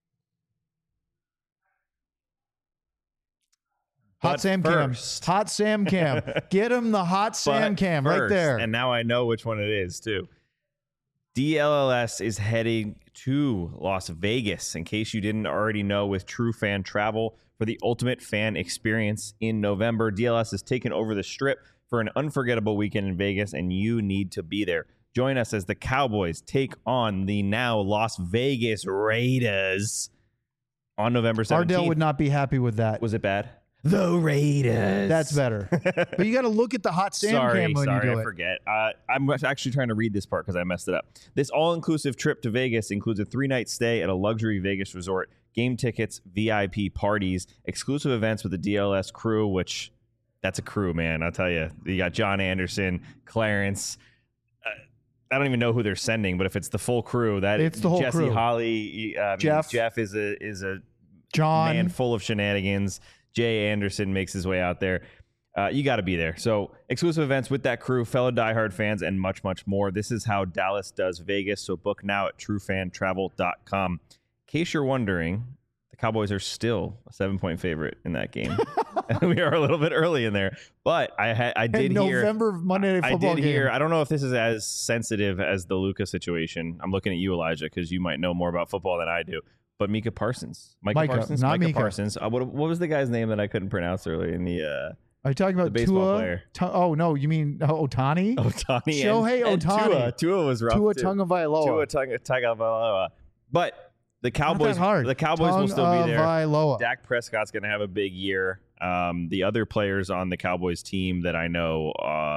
Hot Sam Cam. Hot Sam Cam. Get him the Hot Sam Cam right there. And now I know which one it is, too. DLLS is heading to Las Vegas, in case you didn't already know, with True Fan Travel for the ultimate fan experience in November. DLS has taken over the Strip for an unforgettable weekend in Vegas, and you need to be there. Join us as the Cowboys take on the now Las Vegas Raiders on November 17th. Ardell would not be happy with that. Was it bad? The Raiders. That's better. But you got to look at the Hot Sam Cam when you do it. I forget. I'm actually trying to read this part because I messed it up. This all-inclusive trip to Vegas includes a 3-night stay at a luxury Vegas resort, game tickets, VIP parties, exclusive events with the DLS crew, which that's a crew, man. I'll tell you. You got John Anderson, Clarence. I don't even know who they're sending, but if it's the full crew, it's the whole Jesse crew. Holly, Jeff is a John man full of shenanigans. Jay Anderson makes his way out there. You got to be there. So exclusive events with that crew, fellow diehard fans, and much, much more. This is how Dallas does Vegas. So book now at truefantravel.com. In case you're wondering, the Cowboys are still a 7-point favorite in that game. We are a little bit early in there, but I did hear November Monday Night Football game. I don't know if this is as sensitive as the Luka situation. I'm looking at you, Elijah, because you might know more about football than I do. But Micah Parsons. Micah Parsons. What was the guy's name that I couldn't pronounce earlier in the are you talking about the baseball player? Oh, no, you mean Ohtani? Ohtani. Shohei Ohtani. Tua was rough. Tua Tagovailoa. But the Cowboys will still be there. Dak Prescott's going to have a big year. The other players on the Cowboys team that I know,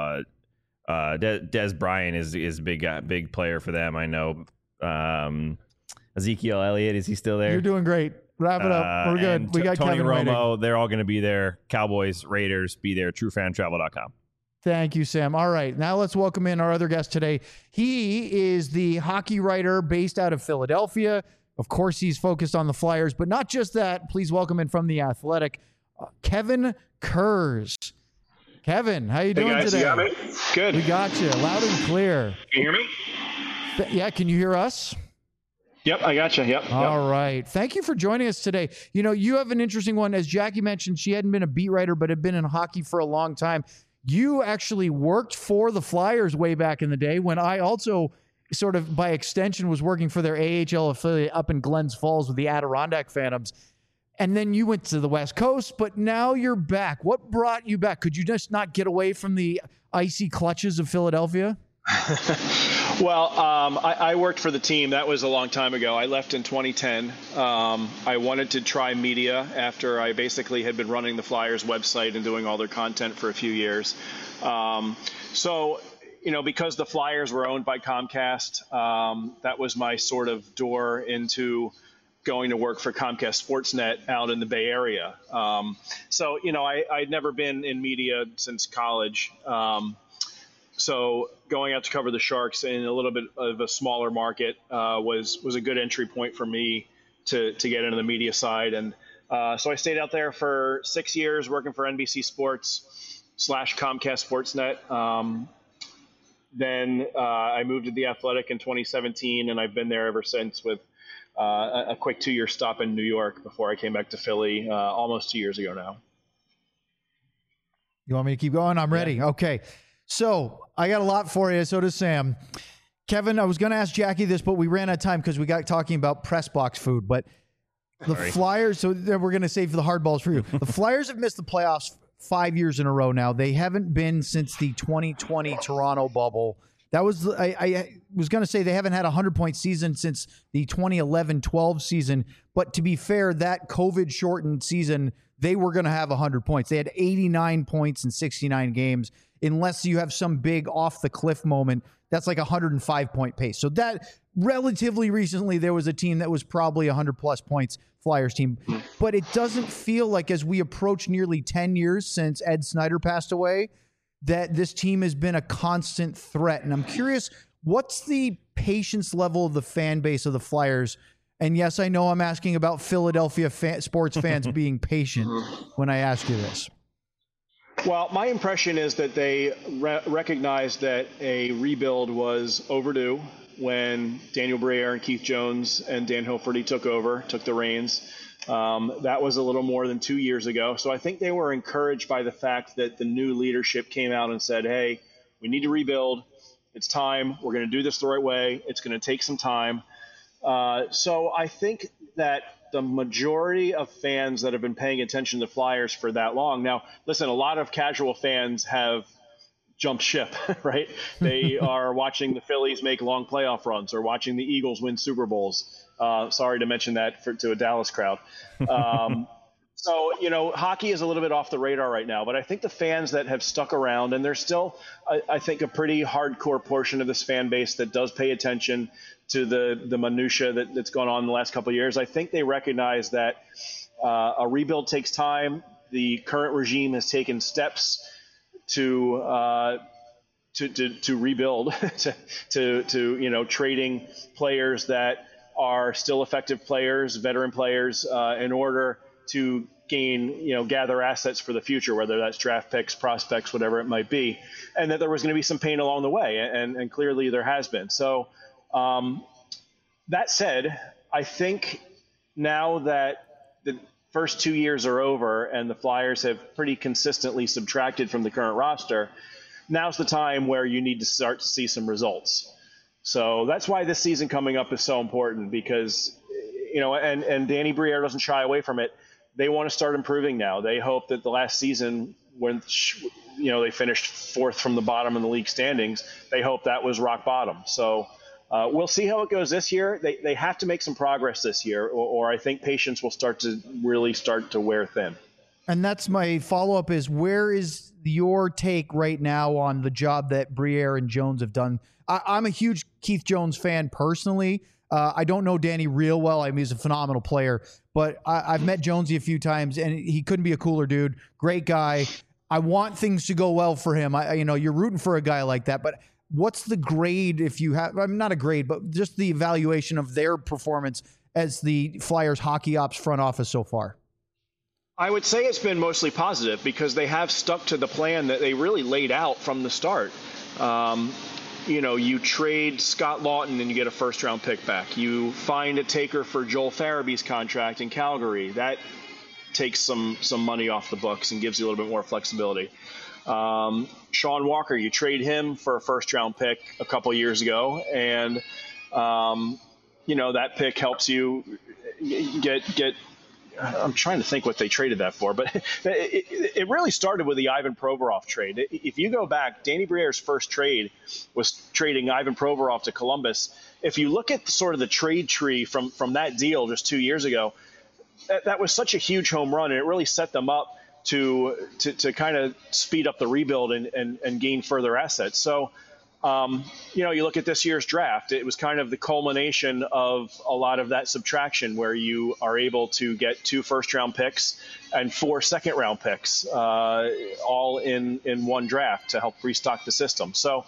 Des Bryant is big player for them. I know. Ezekiel Elliott, is he still there? You're doing great. Wrap it up. We're good. We got Tony Kevin Romo. waiting. They're all going to be there. Cowboys, Raiders, be there. TrueFanTravel.com. Thank you, Sam. All right. Now let's welcome in our other guest today. He is the hockey writer based out of Philadelphia. Of course, he's focused on the Flyers, but not just that. Please welcome in from The Athletic, Kevin Kurz. Kevin, how you doing guys, today? You got me? Good. We got you loud and clear. Can you hear me? Yeah, can you hear us? Yep, I got you. Yep. All right. Thank you for joining us today. You know, you have an interesting one. As Jackie mentioned, she hadn't been a beat writer, but had been in hockey for a long time. You actually worked for the Flyers way back in the day when I also sort of by extension was working for their AHL affiliate up in Glens Falls with the Adirondack Phantoms. And then you went to the West Coast, but now you're back. What brought you back? Could you just not get away from the icy clutches of Philadelphia? Well, I worked for the team. That was a long time ago. I left in 2010. I wanted to try media after I basically had been running the Flyers website and doing all their content for a few years. So, you know, because the Flyers were owned by Comcast, that was my sort of door into going to work for Comcast Sportsnet out in the Bay Area. So, you know, I'd never been in media since college. So going out to cover the Sharks in a little bit of a smaller market was a good entry point for me to get into the media side. And so I stayed out there for 6 years working for NBC Sports / Comcast Sportsnet. Then I moved to The Athletic in 2017, and I've been there ever since with a quick 2-year stop in New York before I came back to Philly almost 2 years ago now. You want me to keep going? I'm ready. Yeah. Okay. So I got a lot for you. So does Sam. Kevin, I was going to ask Jackie this, but we ran out of time because we got talking about press box food. But the Flyers, so we're going to save the hard balls for you. The Flyers have missed the playoffs 5 years in a row now. They haven't been since the 2020 Toronto bubble. That was, I was going to say they haven't had a 100-point season since the 2011-12 season. But to be fair, that COVID-shortened season, they were going to have 100 points. They had 89 points in 69 games. Unless you have some big off-the-cliff moment, that's like a 105-point pace. So that relatively recently, there was a team that was probably 100-plus points, Flyers team. But it doesn't feel like as we approach nearly 10 years since Ed Snyder passed away, that this team has been a constant threat. And I'm curious, what's the patience level of the fan base of the Flyers? And yes, I know I'm asking about Philadelphia sports fans being patient when I ask you this. Well, my impression is that they recognized that a rebuild was overdue when Daniel Briere and Keith Jones and Dan Hilferty took the reins. That was a little more than 2 years ago. So I think they were encouraged by the fact that the new leadership came out and said, hey, we need to rebuild. It's time. We're going to do this the right way. It's going to take some time. So I think that the majority of fans that have been paying attention to Flyers for that long. Now, listen, a lot of casual fans have jumped ship, right? They are watching the Phillies make long playoff runs or watching the Eagles win Super Bowls. Sorry to mention that to a Dallas crowd. So, you know, hockey is a little bit off the radar right now, but I think the fans that have stuck around, and there's still, I think, a pretty hardcore portion of this fan base that does pay attention to the minutia that's gone on in the last couple of years. I think they recognize that a rebuild takes time. The current regime has taken steps to rebuild, to you know, trading players that are still effective players, veteran players, in order to gather assets for the future, whether that's draft picks, prospects, whatever it might be, and that there was going to be some pain along the way, and clearly there has been. So that said, I think now that the first 2 years are over and the Flyers have pretty consistently subtracted from the current roster, now's the time where you need to start to see some results. So that's why this season coming up is so important, because, you know, and Danny Briere doesn't shy away from it. They want to start improving now. They hope that the last season, when, you know, they finished fourth from the bottom in the league standings, they hope that was rock bottom. So we'll see how it goes this year. They have to make some progress this year, or I think patience will start to wear thin. And that's my follow-up is, where is your take right now on the job that Briere and Jones have done? I'm a huge Keith Jones fan personally. I don't know Danny real well. I mean, he's a phenomenal player, but I've met Jonesy a few times, and he couldn't be a cooler dude. Great guy. I want things to go well for him. You're rooting for a guy like that, but what's the grade if you have, I mean, not a grade, but just the evaluation of their performance as the Flyers hockey ops front office so far? I would say it's been mostly positive because they have stuck to the plan that they really laid out from the start. You trade Scott Lawton and you get a first-round pick back. You find a taker for Joel Farabee's contract in Calgary. That takes some money off the books and gives you a little bit more flexibility. Sean Walker, you trade him for a first-round pick a couple years ago, and that pick helps you get. I'm trying to think what they traded that for, but it really started with the Ivan Provorov trade. If you go back, Danny Briere's first trade was trading Ivan Provorov to Columbus. If you look at sort of the trade tree from that deal just 2 years ago, that was such a huge home run, and it really set them up to kind of speed up the rebuild and gain further assets. So, you look at this year's draft, it was kind of the culmination of a lot of that subtraction where you are able to get 2 first-round picks and 4 second-round picks, all in one draft to help restock the system. So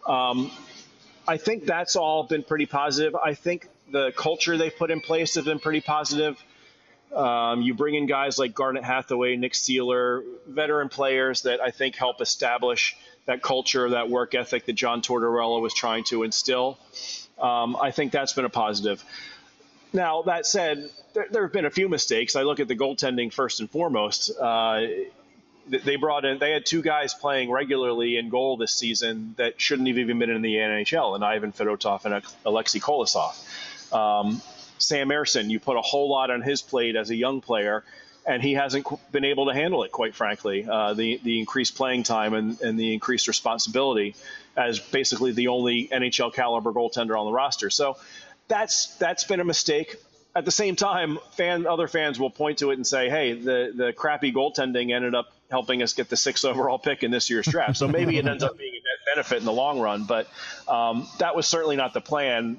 I think that's all been pretty positive. I think the culture they've put in place has been pretty positive. You bring in guys like Garnet Hathaway, Nick Seeler, veteran players that I think help establish that culture, that work ethic that John Tortorella was trying to instill. I think that's been a positive. Now, that said, there have been a few mistakes. I look at the goaltending first and foremost. They had 2 guys playing regularly in goal this season that shouldn't have even been in the NHL, and Ivan Fedotov and Alexei Kolosov. Sam Ersson, you put a whole lot on his plate as a young player, and he hasn't been able to handle it, quite frankly. The increased playing time and the increased responsibility as basically the only NHL caliber goaltender on the roster. So that's been a mistake. At the same time, other fans will point to it and say, hey, the crappy goaltending ended up helping us get the 6th overall pick in this year's draft. So maybe it ends up being a net benefit in the long run, but that was certainly not the plan.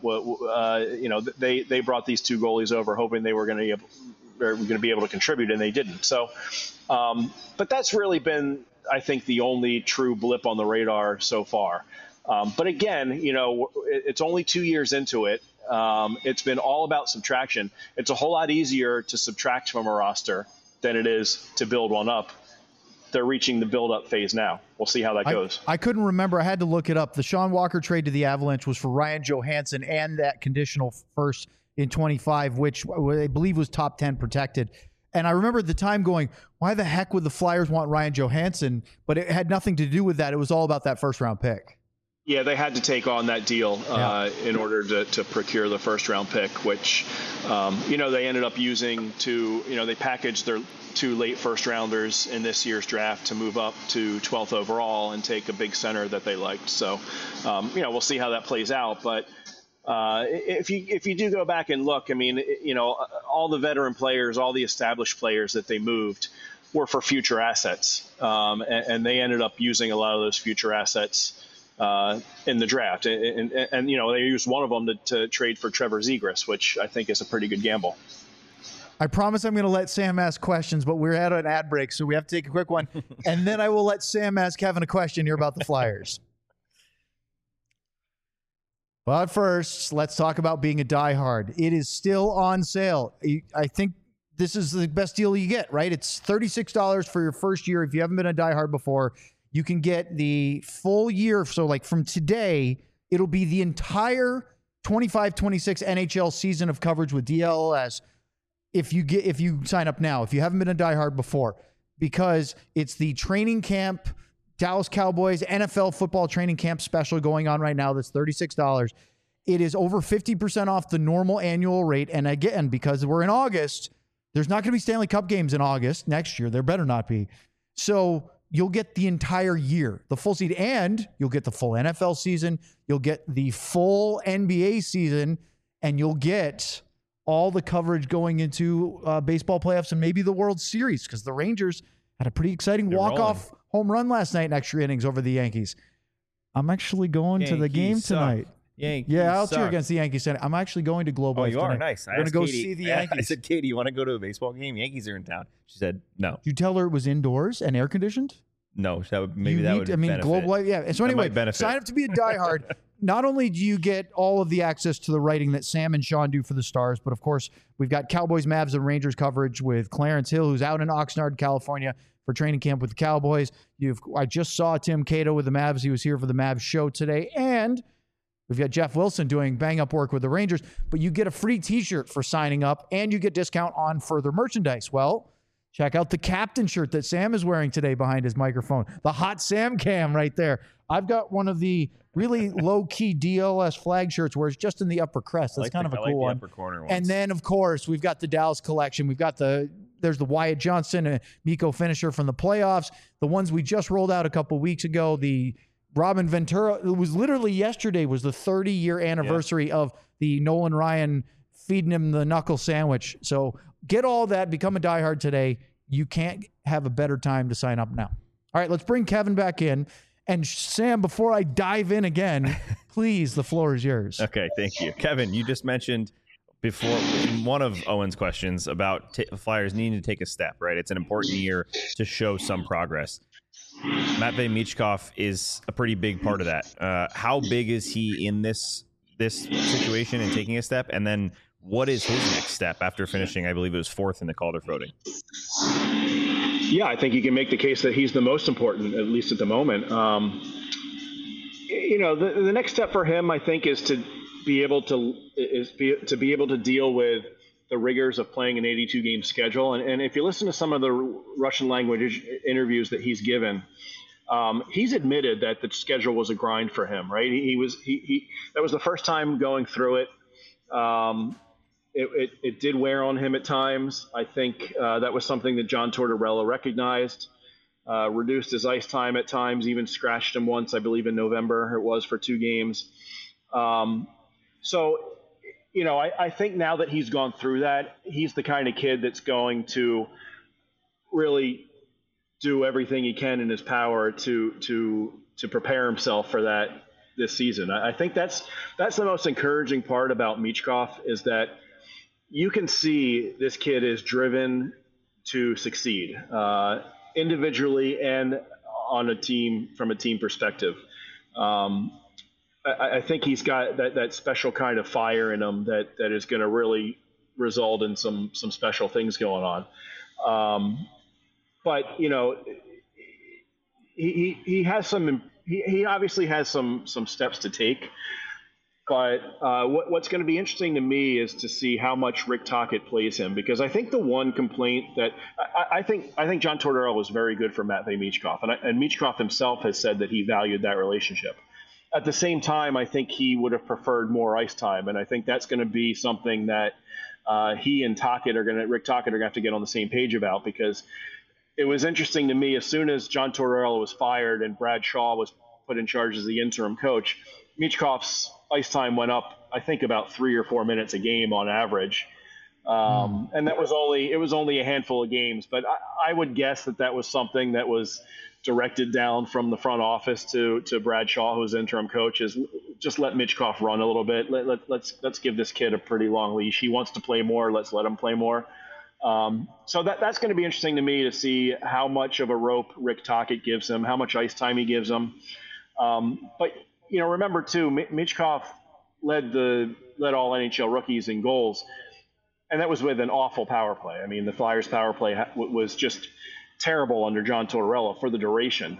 They brought these 2 goalies over hoping they were going to be able to contribute, and they didn't. So, but that's really been, I think, the only true blip on the radar so far. But again, it's only 2 years into it. It's been all about subtraction. It's a whole lot easier to subtract from a roster than it is to build one up. They're reaching the build-up phase now. We'll see how that goes. I couldn't remember. I had to look it up. The Sean Walker trade to the Avalanche was for Ryan Johansson and that conditional first in 25, which I believe was top 10 protected. And I remember at the time going, why the heck would the Flyers want Ryan Johansson? But it had nothing to do with that. It was all about that first-round pick. Yeah, they had to take on that deal in order to procure the first-round pick, which, they ended up using they packaged their 2 late first-rounders in this year's draft to move up to 12th overall and take a big center that they liked. So, we'll see how that plays out. But if you do go back and look, all the veteran players, all the established players that they moved were for future assets, and they ended up using a lot of those future assets in the draft, and they used one of them to trade for Trevor Zegras, which I think is a pretty good gamble. I promise I'm going to let Sam ask questions, but we're at an ad break, so we have to take a quick one, and then I will let Sam ask Kevin a question here about the Flyers. But first, let's talk about being a diehard. It is still on sale. I think this is the best deal you get, right? It's $36 for your first year. If you haven't been a diehard before, you can get the full year. So like from today, it'll be the entire 25-26 NHL season of coverage with DLS if you sign up now, if you haven't been a diehard before, because it's the training camp, Dallas Cowboys NFL football training camp special going on right now. That's $36. It is over 50% off the normal annual rate. And again, because we're in August, there's not going to be Stanley Cup games in August next year. There better not be. So you'll get the entire year, the full season, and you'll get the full NFL season. You'll get the full NBA season, and you'll get all the coverage going into baseball playoffs and maybe the World Series, because the Rangers had a pretty exciting walk-off home run last night in extra innings over the Yankees. I'm actually going to the game tonight. I'll cheer against the Yankees tonight. I'm actually going to Globe Life tonight. Oh, you are? Nice. I'm going to go see the Yankees. I said, Katie, you want to go to a baseball game? Yankees are in town. She said, no. Did you tell her it was indoors and air-conditioned? No, that would benefit. Globe Life, yeah. So anyway, sign up to be a diehard. not only do you get all of the access to the writing that Sam and Sean do for the Stars, but of course, we've got Cowboys, Mavs, and Rangers coverage with Clarence Hill, who's out in Oxnard, California for training camp with the Cowboys. I just saw Tim Cato with the Mavs. He was here for the Mavs show today. And we've got Jeff Wilson doing bang-up work with the Rangers. But you get a free T-shirt for signing up, and you get discount on further merchandise. Well, check out the captain shirt that Sam is wearing today behind his microphone. The Hot Sam Cam right there. I've got one of the really low-key DLS flag shirts where it's just in the upper crest. That's kind of a cool one. Upper corner and then, of course, we've got the Dallas collection. We've got there's the Wyatt Johnston and Miko finisher from the playoffs. The ones we just rolled out a couple weeks ago, the Robin Ventura. It was literally yesterday was the 30-year anniversary of the Nolan Ryan feeding him the knuckle sandwich. So get all that. Become a diehard today. You can't have a better time to sign up now. All right, let's bring Kevin back in. And Sam, before I dive in again, please, the floor is yours. Okay, thank you. Kevin, you just mentioned before in one of Owen's questions about Flyers needing to take a step, right? It's an important year to show some progress. Matvei Michkov is a pretty big part of that. How big is he in this situation and taking a step? And then what is his next step after finishing, I believe it was 4th in the Calder voting? Yeah, I think you can make the case that he's the most important, at least at the moment. The next step for him, I think, is to be able to deal with the rigors of playing an 82-game schedule. And if you listen to some of the Russian language interviews that he's given, he's admitted that the schedule was a grind for him. Right? That was the first time going through it. It did wear on him at times. I think that was something that John Tortorella recognized, reduced his ice time at times, even scratched him once, I believe in November it was for 2 games. I think now that he's gone through that, he's the kind of kid that's going to really do everything he can in his power to prepare himself for that this season. I think that's the most encouraging part about Michkov is that you can see this kid is driven to succeed individually and on a team from a team perspective. I think he's got that special kind of fire in him that is going to really result in some special things going on. But he has he obviously has some steps to take. But what's going to be interesting to me is to see how much Rick Tocchet plays him, because I think the one complaint that I think John Tortorella was very good for Matvei Michkov, and Michkov himself has said that he valued that relationship. At the same time, I think he would have preferred more ice time, and I think that's going to be something that he and Rick Tocchet are going to have to get on the same page about, because it was interesting to me as soon as John Tortorella was fired and Brad Shaw was put in charge as the interim coach, Michkov's ice time went up, I think, about 3 or 4 minutes a game on average. And it was only a handful of games, but I would guess that was something that was directed down from the front office to Brad Shaw, who's interim coach, is just let Michkov run a little bit. Let's give this kid a pretty long leash. He wants to play more. Let's let him play more. So that's going to be interesting to me to see how much of a rope Rick Tocchet gives him, how much ice time he gives him. But remember too, Michkov led all NHL rookies in goals, and that was with an awful power play. I mean, the Flyers' power play was just terrible under John Tortorella for the duration.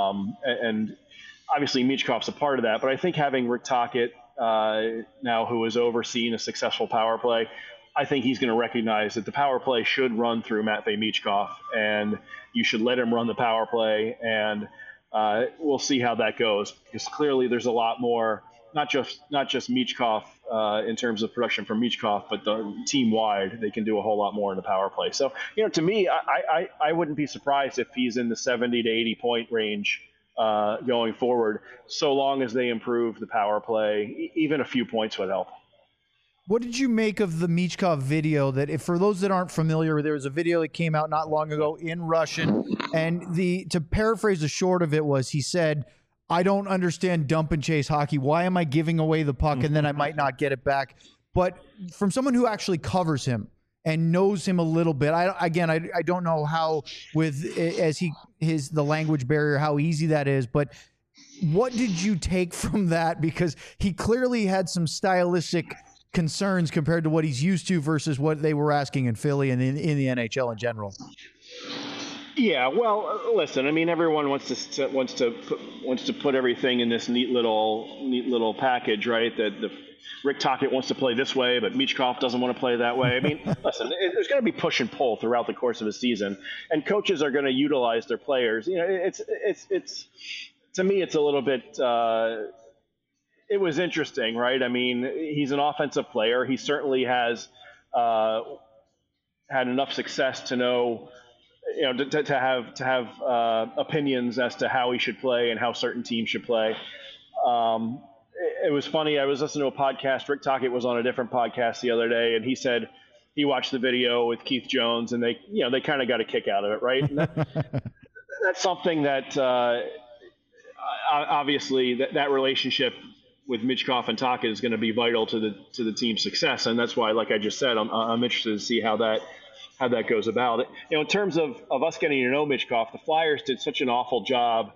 And obviously Michkov's a part of that, but I think having Rick Tocchet now, who has overseen a successful power play, I think he's going to recognize that the power play should run through Matvei Michkov, and you should let him run the power play, and we'll see how that goes, because clearly there's a lot more, not just Michkov in terms of production from Michkov, but the team wide, they can do a whole lot more in the power play. So, to me, I wouldn't be surprised if he's in the 70 to 80 point range going forward, so long as they improve the power play. Even a few points would help. What did you make of the Michkov video? That, if for those that aren't familiar, there was a video that came out not long ago in Russian, and to paraphrase the short of it was, he said, "I don't understand dump and chase hockey. Why am I giving away the puck and then I might not get it back?" But from someone who actually covers him and knows him a little bit, I don't know how, with the language barrier, how easy that is, but what did you take from that? Because he clearly had some stylistic concerns compared to what he's used to versus what they were asking in Philly and in the NHL in general. Yeah, well, listen. I mean, everyone wants to put everything in this neat little package, right? That Rick Tocchet wants to play this way, but Michkov doesn't want to play that way. I mean, listen, there's going to be push and pull throughout the course of a season, and coaches are going to utilize their players. You know, it's to me, it's a little bit. It was interesting, right? I mean, he's an offensive player. He certainly has had enough success to know. You know, to have opinions as to how he should play and how certain teams should play. It was funny. I was listening to a podcast. Rick Tocchet was on a different podcast the other day, and he said he watched the video with Keith Jones, and they kind of got a kick out of it, right? And that's something that obviously that relationship with Michkov and Tocchet is going to be vital to the team's success, and that's why, like I just said, I'm interested to see how that goes about. You know, in terms of us getting to know Michkov, the Flyers did such an awful job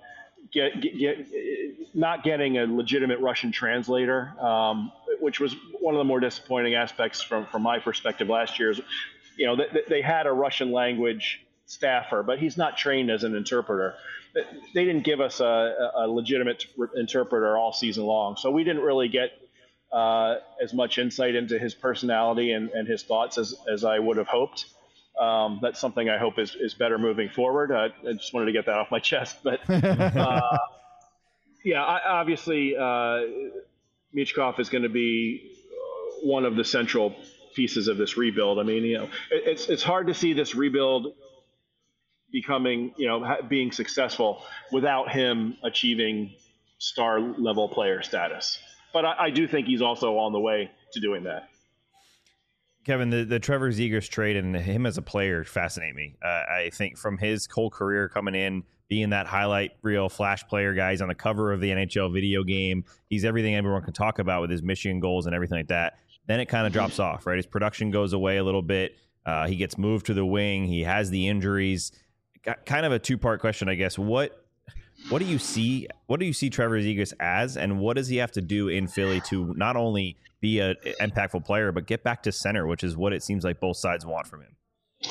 not getting a legitimate Russian translator, which was one of the more disappointing aspects from my perspective last year. You know, they had a Russian language staffer, but he's not trained as an interpreter. They didn't give us a legitimate interpreter all season long, so we didn't really get as much insight into his personality and his thoughts as I would have hoped. That's something I hope is better moving forward. I just wanted to get that off my chest. But obviously, Michkov is going to be one of the central pieces of this rebuild. I mean, you know, it's hard to see this rebuild becoming, you know, being successful without him achieving star level player status. But I do think he's also on the way to doing that. Kevin, the Trevor Zegras trade and him as a player fascinate me. I think from his whole career coming in, being that highlight reel flash player guy, he's on the cover of the NHL video game. He's everything everyone can talk about with his Michigan goals and everything like that. Then it kind of drops off, right? His production goes away a little bit. He gets moved to the wing. He has the injuries. Kind of a two-part question, I guess. What do you see? What do you see Trevor Zegras as, and what does he have to do in Philly to not only be an impactful player, but get back to center, which is what it seems like both sides want from him?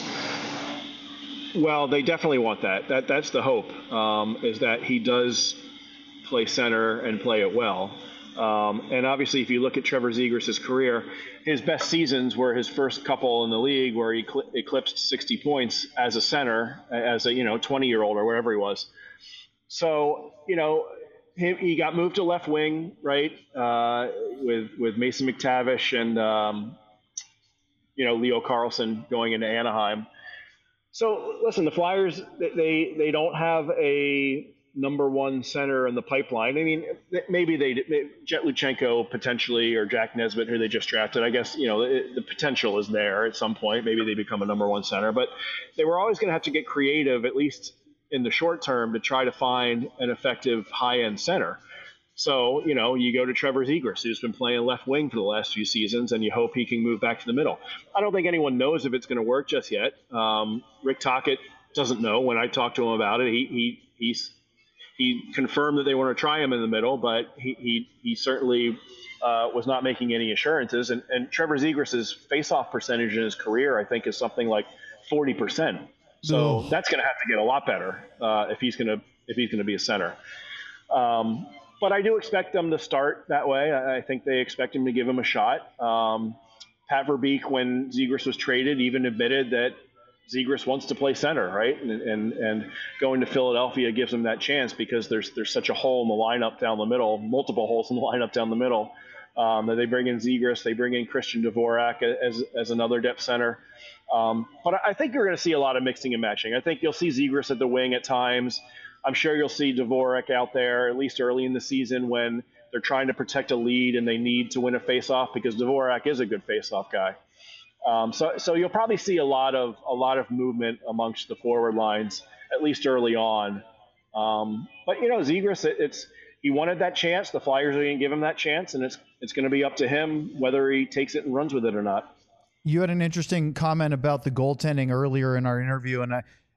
Well, they definitely want that. That's the hope, is that he does play center and play it well. And obviously, if you look at Trevor Zegras' career, his best seasons were his first couple in the league where he eclipsed 60 points as a center, as a 20-year-old or whatever he was. So, you know, he got moved to left wing, right, with Mason McTavish and, Leo Carlsson going into Anaheim. So, listen, the Flyers, they don't have a number one center in the pipeline. I mean, maybe Jet Luchenko potentially, or Jack Nesbitt, who they just drafted. I guess, the potential is there at some point. Maybe they become a number one center. But they were always going to have to get creative, at least in the short term, to try to find an effective high-end center. So, you go to Trevor Zegras, who's been playing left wing for the last few seasons, and you hope he can move back to the middle. I don't think anyone knows if it's going to work just yet. Rick Tocchet doesn't know. When I talked to him about it, he confirmed that they want to try him in the middle, but he certainly was not making any assurances. And Trevor Zegras' faceoff percentage in his career, I think, is something like 40%. So that's going to have to get a lot better if he's going to be a center. But I do expect them to start that way. I think they expect him to give him a shot. Pat Verbeek, when Zegras was traded, even admitted that Zegras wants to play center, right? And going to Philadelphia gives him that chance because there's such a hole in the lineup down the middle, multiple holes in the lineup down the middle. That they bring in Zegras, they bring in Christian Dvorak as another depth center. But I think you're going to see a lot of mixing and matching. I think you'll see Zegras at the wing at times. I'm sure you'll see Dvorak out there, at least early in the season when they're trying to protect a lead and they need to win a faceoff, because Dvorak is a good faceoff guy. So you'll probably see a lot of movement amongst the forward lines, at least early on. But Zegras, he wanted that chance. The Flyers are going to give him that chance, and it's going to be up to him whether he takes it and runs with it or not. You had an interesting comment about the goaltending earlier in our interview, and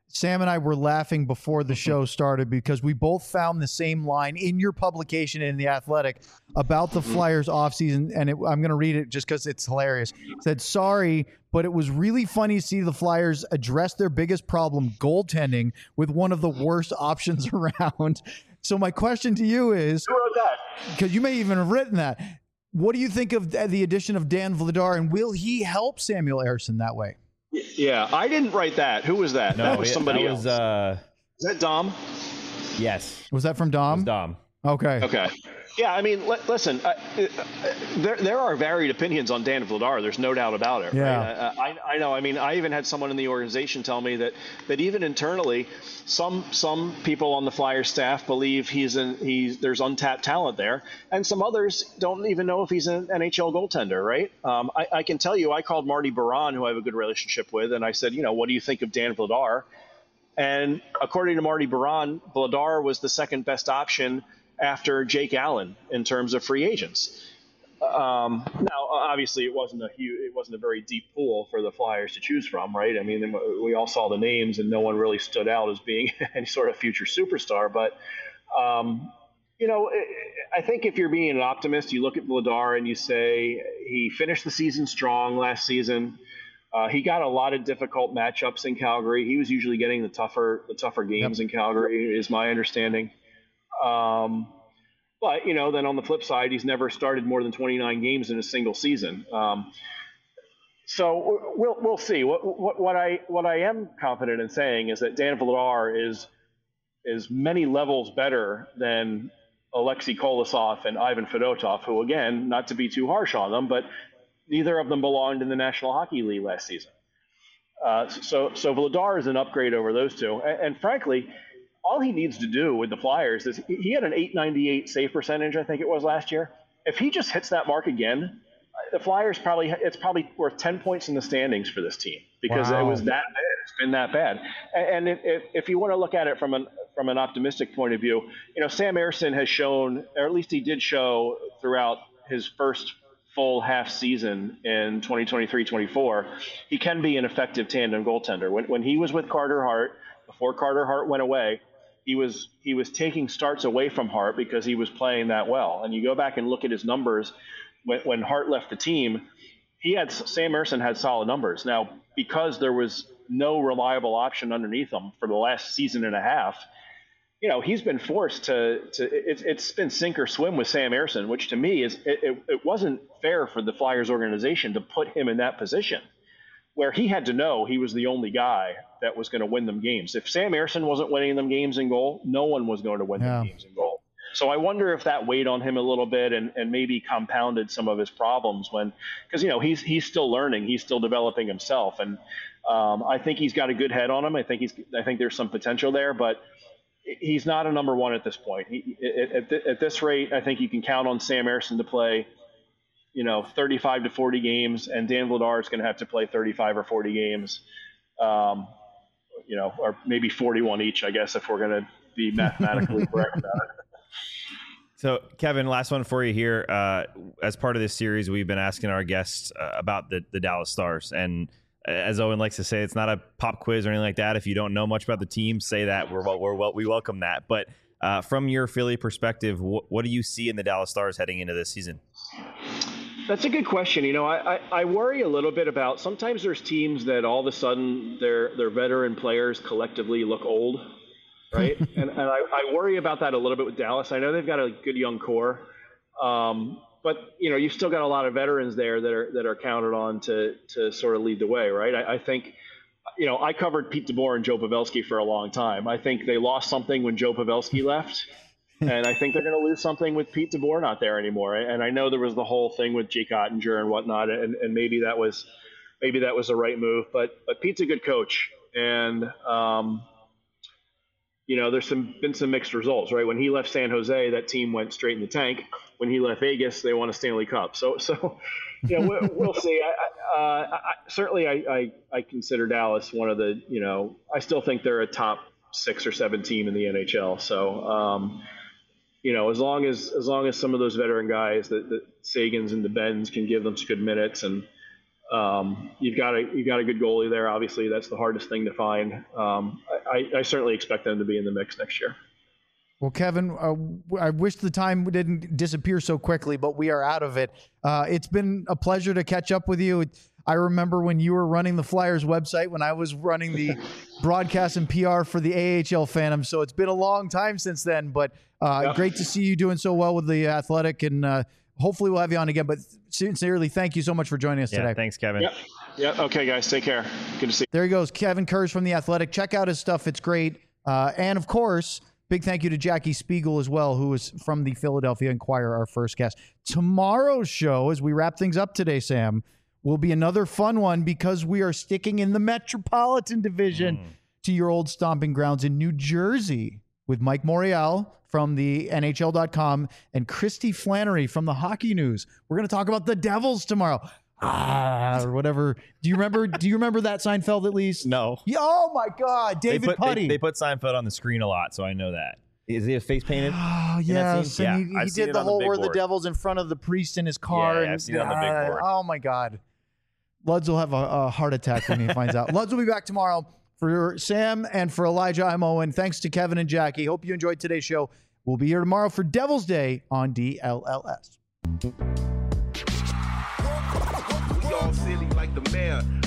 Sam and I were laughing before the show started because we both found the same line in your publication in The Athletic about the Flyers offseason. And I'm going to read it just because it's hilarious. It said, sorry, but it was really funny to see the Flyers address their biggest problem, goaltending, with one of the worst options around. So my question to you is, Who wrote that? because you may even have written that, what do you think of the addition of Dan Vladar, and will he help Samuel Ersson that way? Yeah, I didn't write that. Who was that? No, that was somebody else. Is that Dom? Yes. Was that from Dom? It was Dom. Okay. Okay. Yeah, I mean, listen, there are varied opinions on Dan Vladar. There's no doubt about it. Yeah. Right? I know. I mean, I even had someone in the organization tell me that even internally, some people on the Flyers staff believe there's untapped talent there, and some others don't even know if he's an NHL goaltender. Right? I can tell you, I called Marty Baron, who I have a good relationship with, and I said, what do you think of Dan Vladar? And according to Marty Baron, Vladar was the second best option after Jake Allen in terms of free agents. Now, obviously, it wasn't a very deep pool for the Flyers to choose from, right? I mean, we all saw the names, and no one really stood out as being any sort of future superstar. But I think if you're being an optimist, you look at Vladar and you say he finished the season strong last season. He got a lot of difficult matchups in Calgary. He was usually getting the tougher games in Calgary, is my understanding. But then on the flip side, he's never started more than 29 games in a single season. So we'll see. What I am confident in saying is that Dan Vladar is many levels better than Alexei Kolosov and Ivan Fedotov, who, again, not to be too harsh on them, but neither of them belonged in the National Hockey League last season. So Vladar is an upgrade over those two, and frankly, all he needs to do with the Flyers is he had an .898 save percentage, I think it was last year. If he just hits that mark again, the Flyers it's probably worth 10 points in the standings for this team because It was that bad. It's been that bad. And if you want to look at it from an optimistic point of view, Sam Ersson has shown, or at least he did show throughout his first full half season in 2023-24, he can be an effective tandem goaltender. When he was with Carter Hart, before Carter Hart went away, he was taking starts away from Hart because he was playing that well. And you go back and look at his numbers when Hart left the team, Sam Ersson had solid numbers. Now, because there was no reliable option underneath him for the last season and a half, he's been forced it's been sink or swim with Sam Ersson, which to me it wasn't fair for the Flyers organization to put him in that position where he had to know he was the only guy that was going to win them games. If Sam Ersson wasn't winning them games in goal, no one was going to win them games in goal. So I wonder if that weighed on him a little bit and maybe compounded some of his problems because he's still learning, he's still developing himself, and I think he's got a good head on him. I think there's some potential there, but he's not a number one at this point. At this rate, I think you can count on Sam Ersson to play 35 to 40 games, and Dan Vladar is going to have to play 35 or 40 games, or maybe 41 each, I guess, if we're going to be mathematically correct about it. So, Kevin, last one for you here. As part of this series, we've been asking our guests about the Dallas Stars. And as Owen likes to say, it's not a pop quiz or anything like that. If you don't know much about the team, say that. We welcome that. But from your Philly perspective, what do you see in the Dallas Stars heading into this season? That's a good question. I worry a little bit about sometimes there's teams that all of a sudden their veteran players collectively look old, right? and I worry about that a little bit with Dallas. I know they've got a good young core, but you've still got a lot of veterans there that are counted on to sort of lead the way, right? I think, I covered Pete DeBoer and Joe Pavelski for a long time. I think they lost something when Joe Pavelski left. And I think they're going to lose something with Pete DeBoer not there anymore. And I know there was the whole thing with Jake Ottinger and whatnot, and maybe that was the right move. But Pete's a good coach, and there's been some mixed results, right? When he left San Jose, that team went straight in the tank. When he left Vegas, they won a Stanley Cup. So we'll see. Certainly I consider Dallas one of the I still think they're a top 6 or 7 team in the NHL. So. As long as some of those veteran guys, the Sagans and the Bens, can give them some good minutes, and You've got a good goalie there. Obviously, that's the hardest thing to find. I certainly expect them to be in the mix next year. Well, Kevin, I wish the time didn't disappear so quickly, but we are out of it. It's been a pleasure to catch up with you. I remember when you were running the Flyers website, when I was running the broadcast and PR for the AHL Phantom. So it's been a long time since then, but great to see you doing so well with the Athletic, and hopefully we'll have you on again. But sincerely, thank you so much for joining us today. Thanks, Kevin. Yeah. Okay, guys, take care. Good to see you. There he goes, Kevin Kurz from the Athletic. Check out his stuff; it's great. And of course, big thank you to Jackie Spiegel as well, who is from the Philadelphia Inquirer, our first guest. Tomorrow's show, as we wrap things up today, Sam, will be another fun one because we are sticking in the Metropolitan Division to your old stomping grounds in New Jersey with Mike Morial from the NHL.com and Christy Flannery from the Hockey News. We're going to talk about the Devils tomorrow. Or whatever. Do you remember that, Seinfeld, at least? No. Oh my God, David Putty. They put Seinfeld on the screen a lot, so I know that. Is he a face painted? Oh, yes. Yeah, he did the whole "We're the Devils" in front of the priest in his car. Yeah, I've seen it on the big board. Oh my God. Luds will have a heart attack when he finds out. Luds will be back tomorrow. For Sam and for Elijah, I'm Owen. Thanks to Kevin and Jackie. Hope you enjoyed today's show. We'll be here tomorrow for Devil's Day on DLLS. We all silly like the mayor.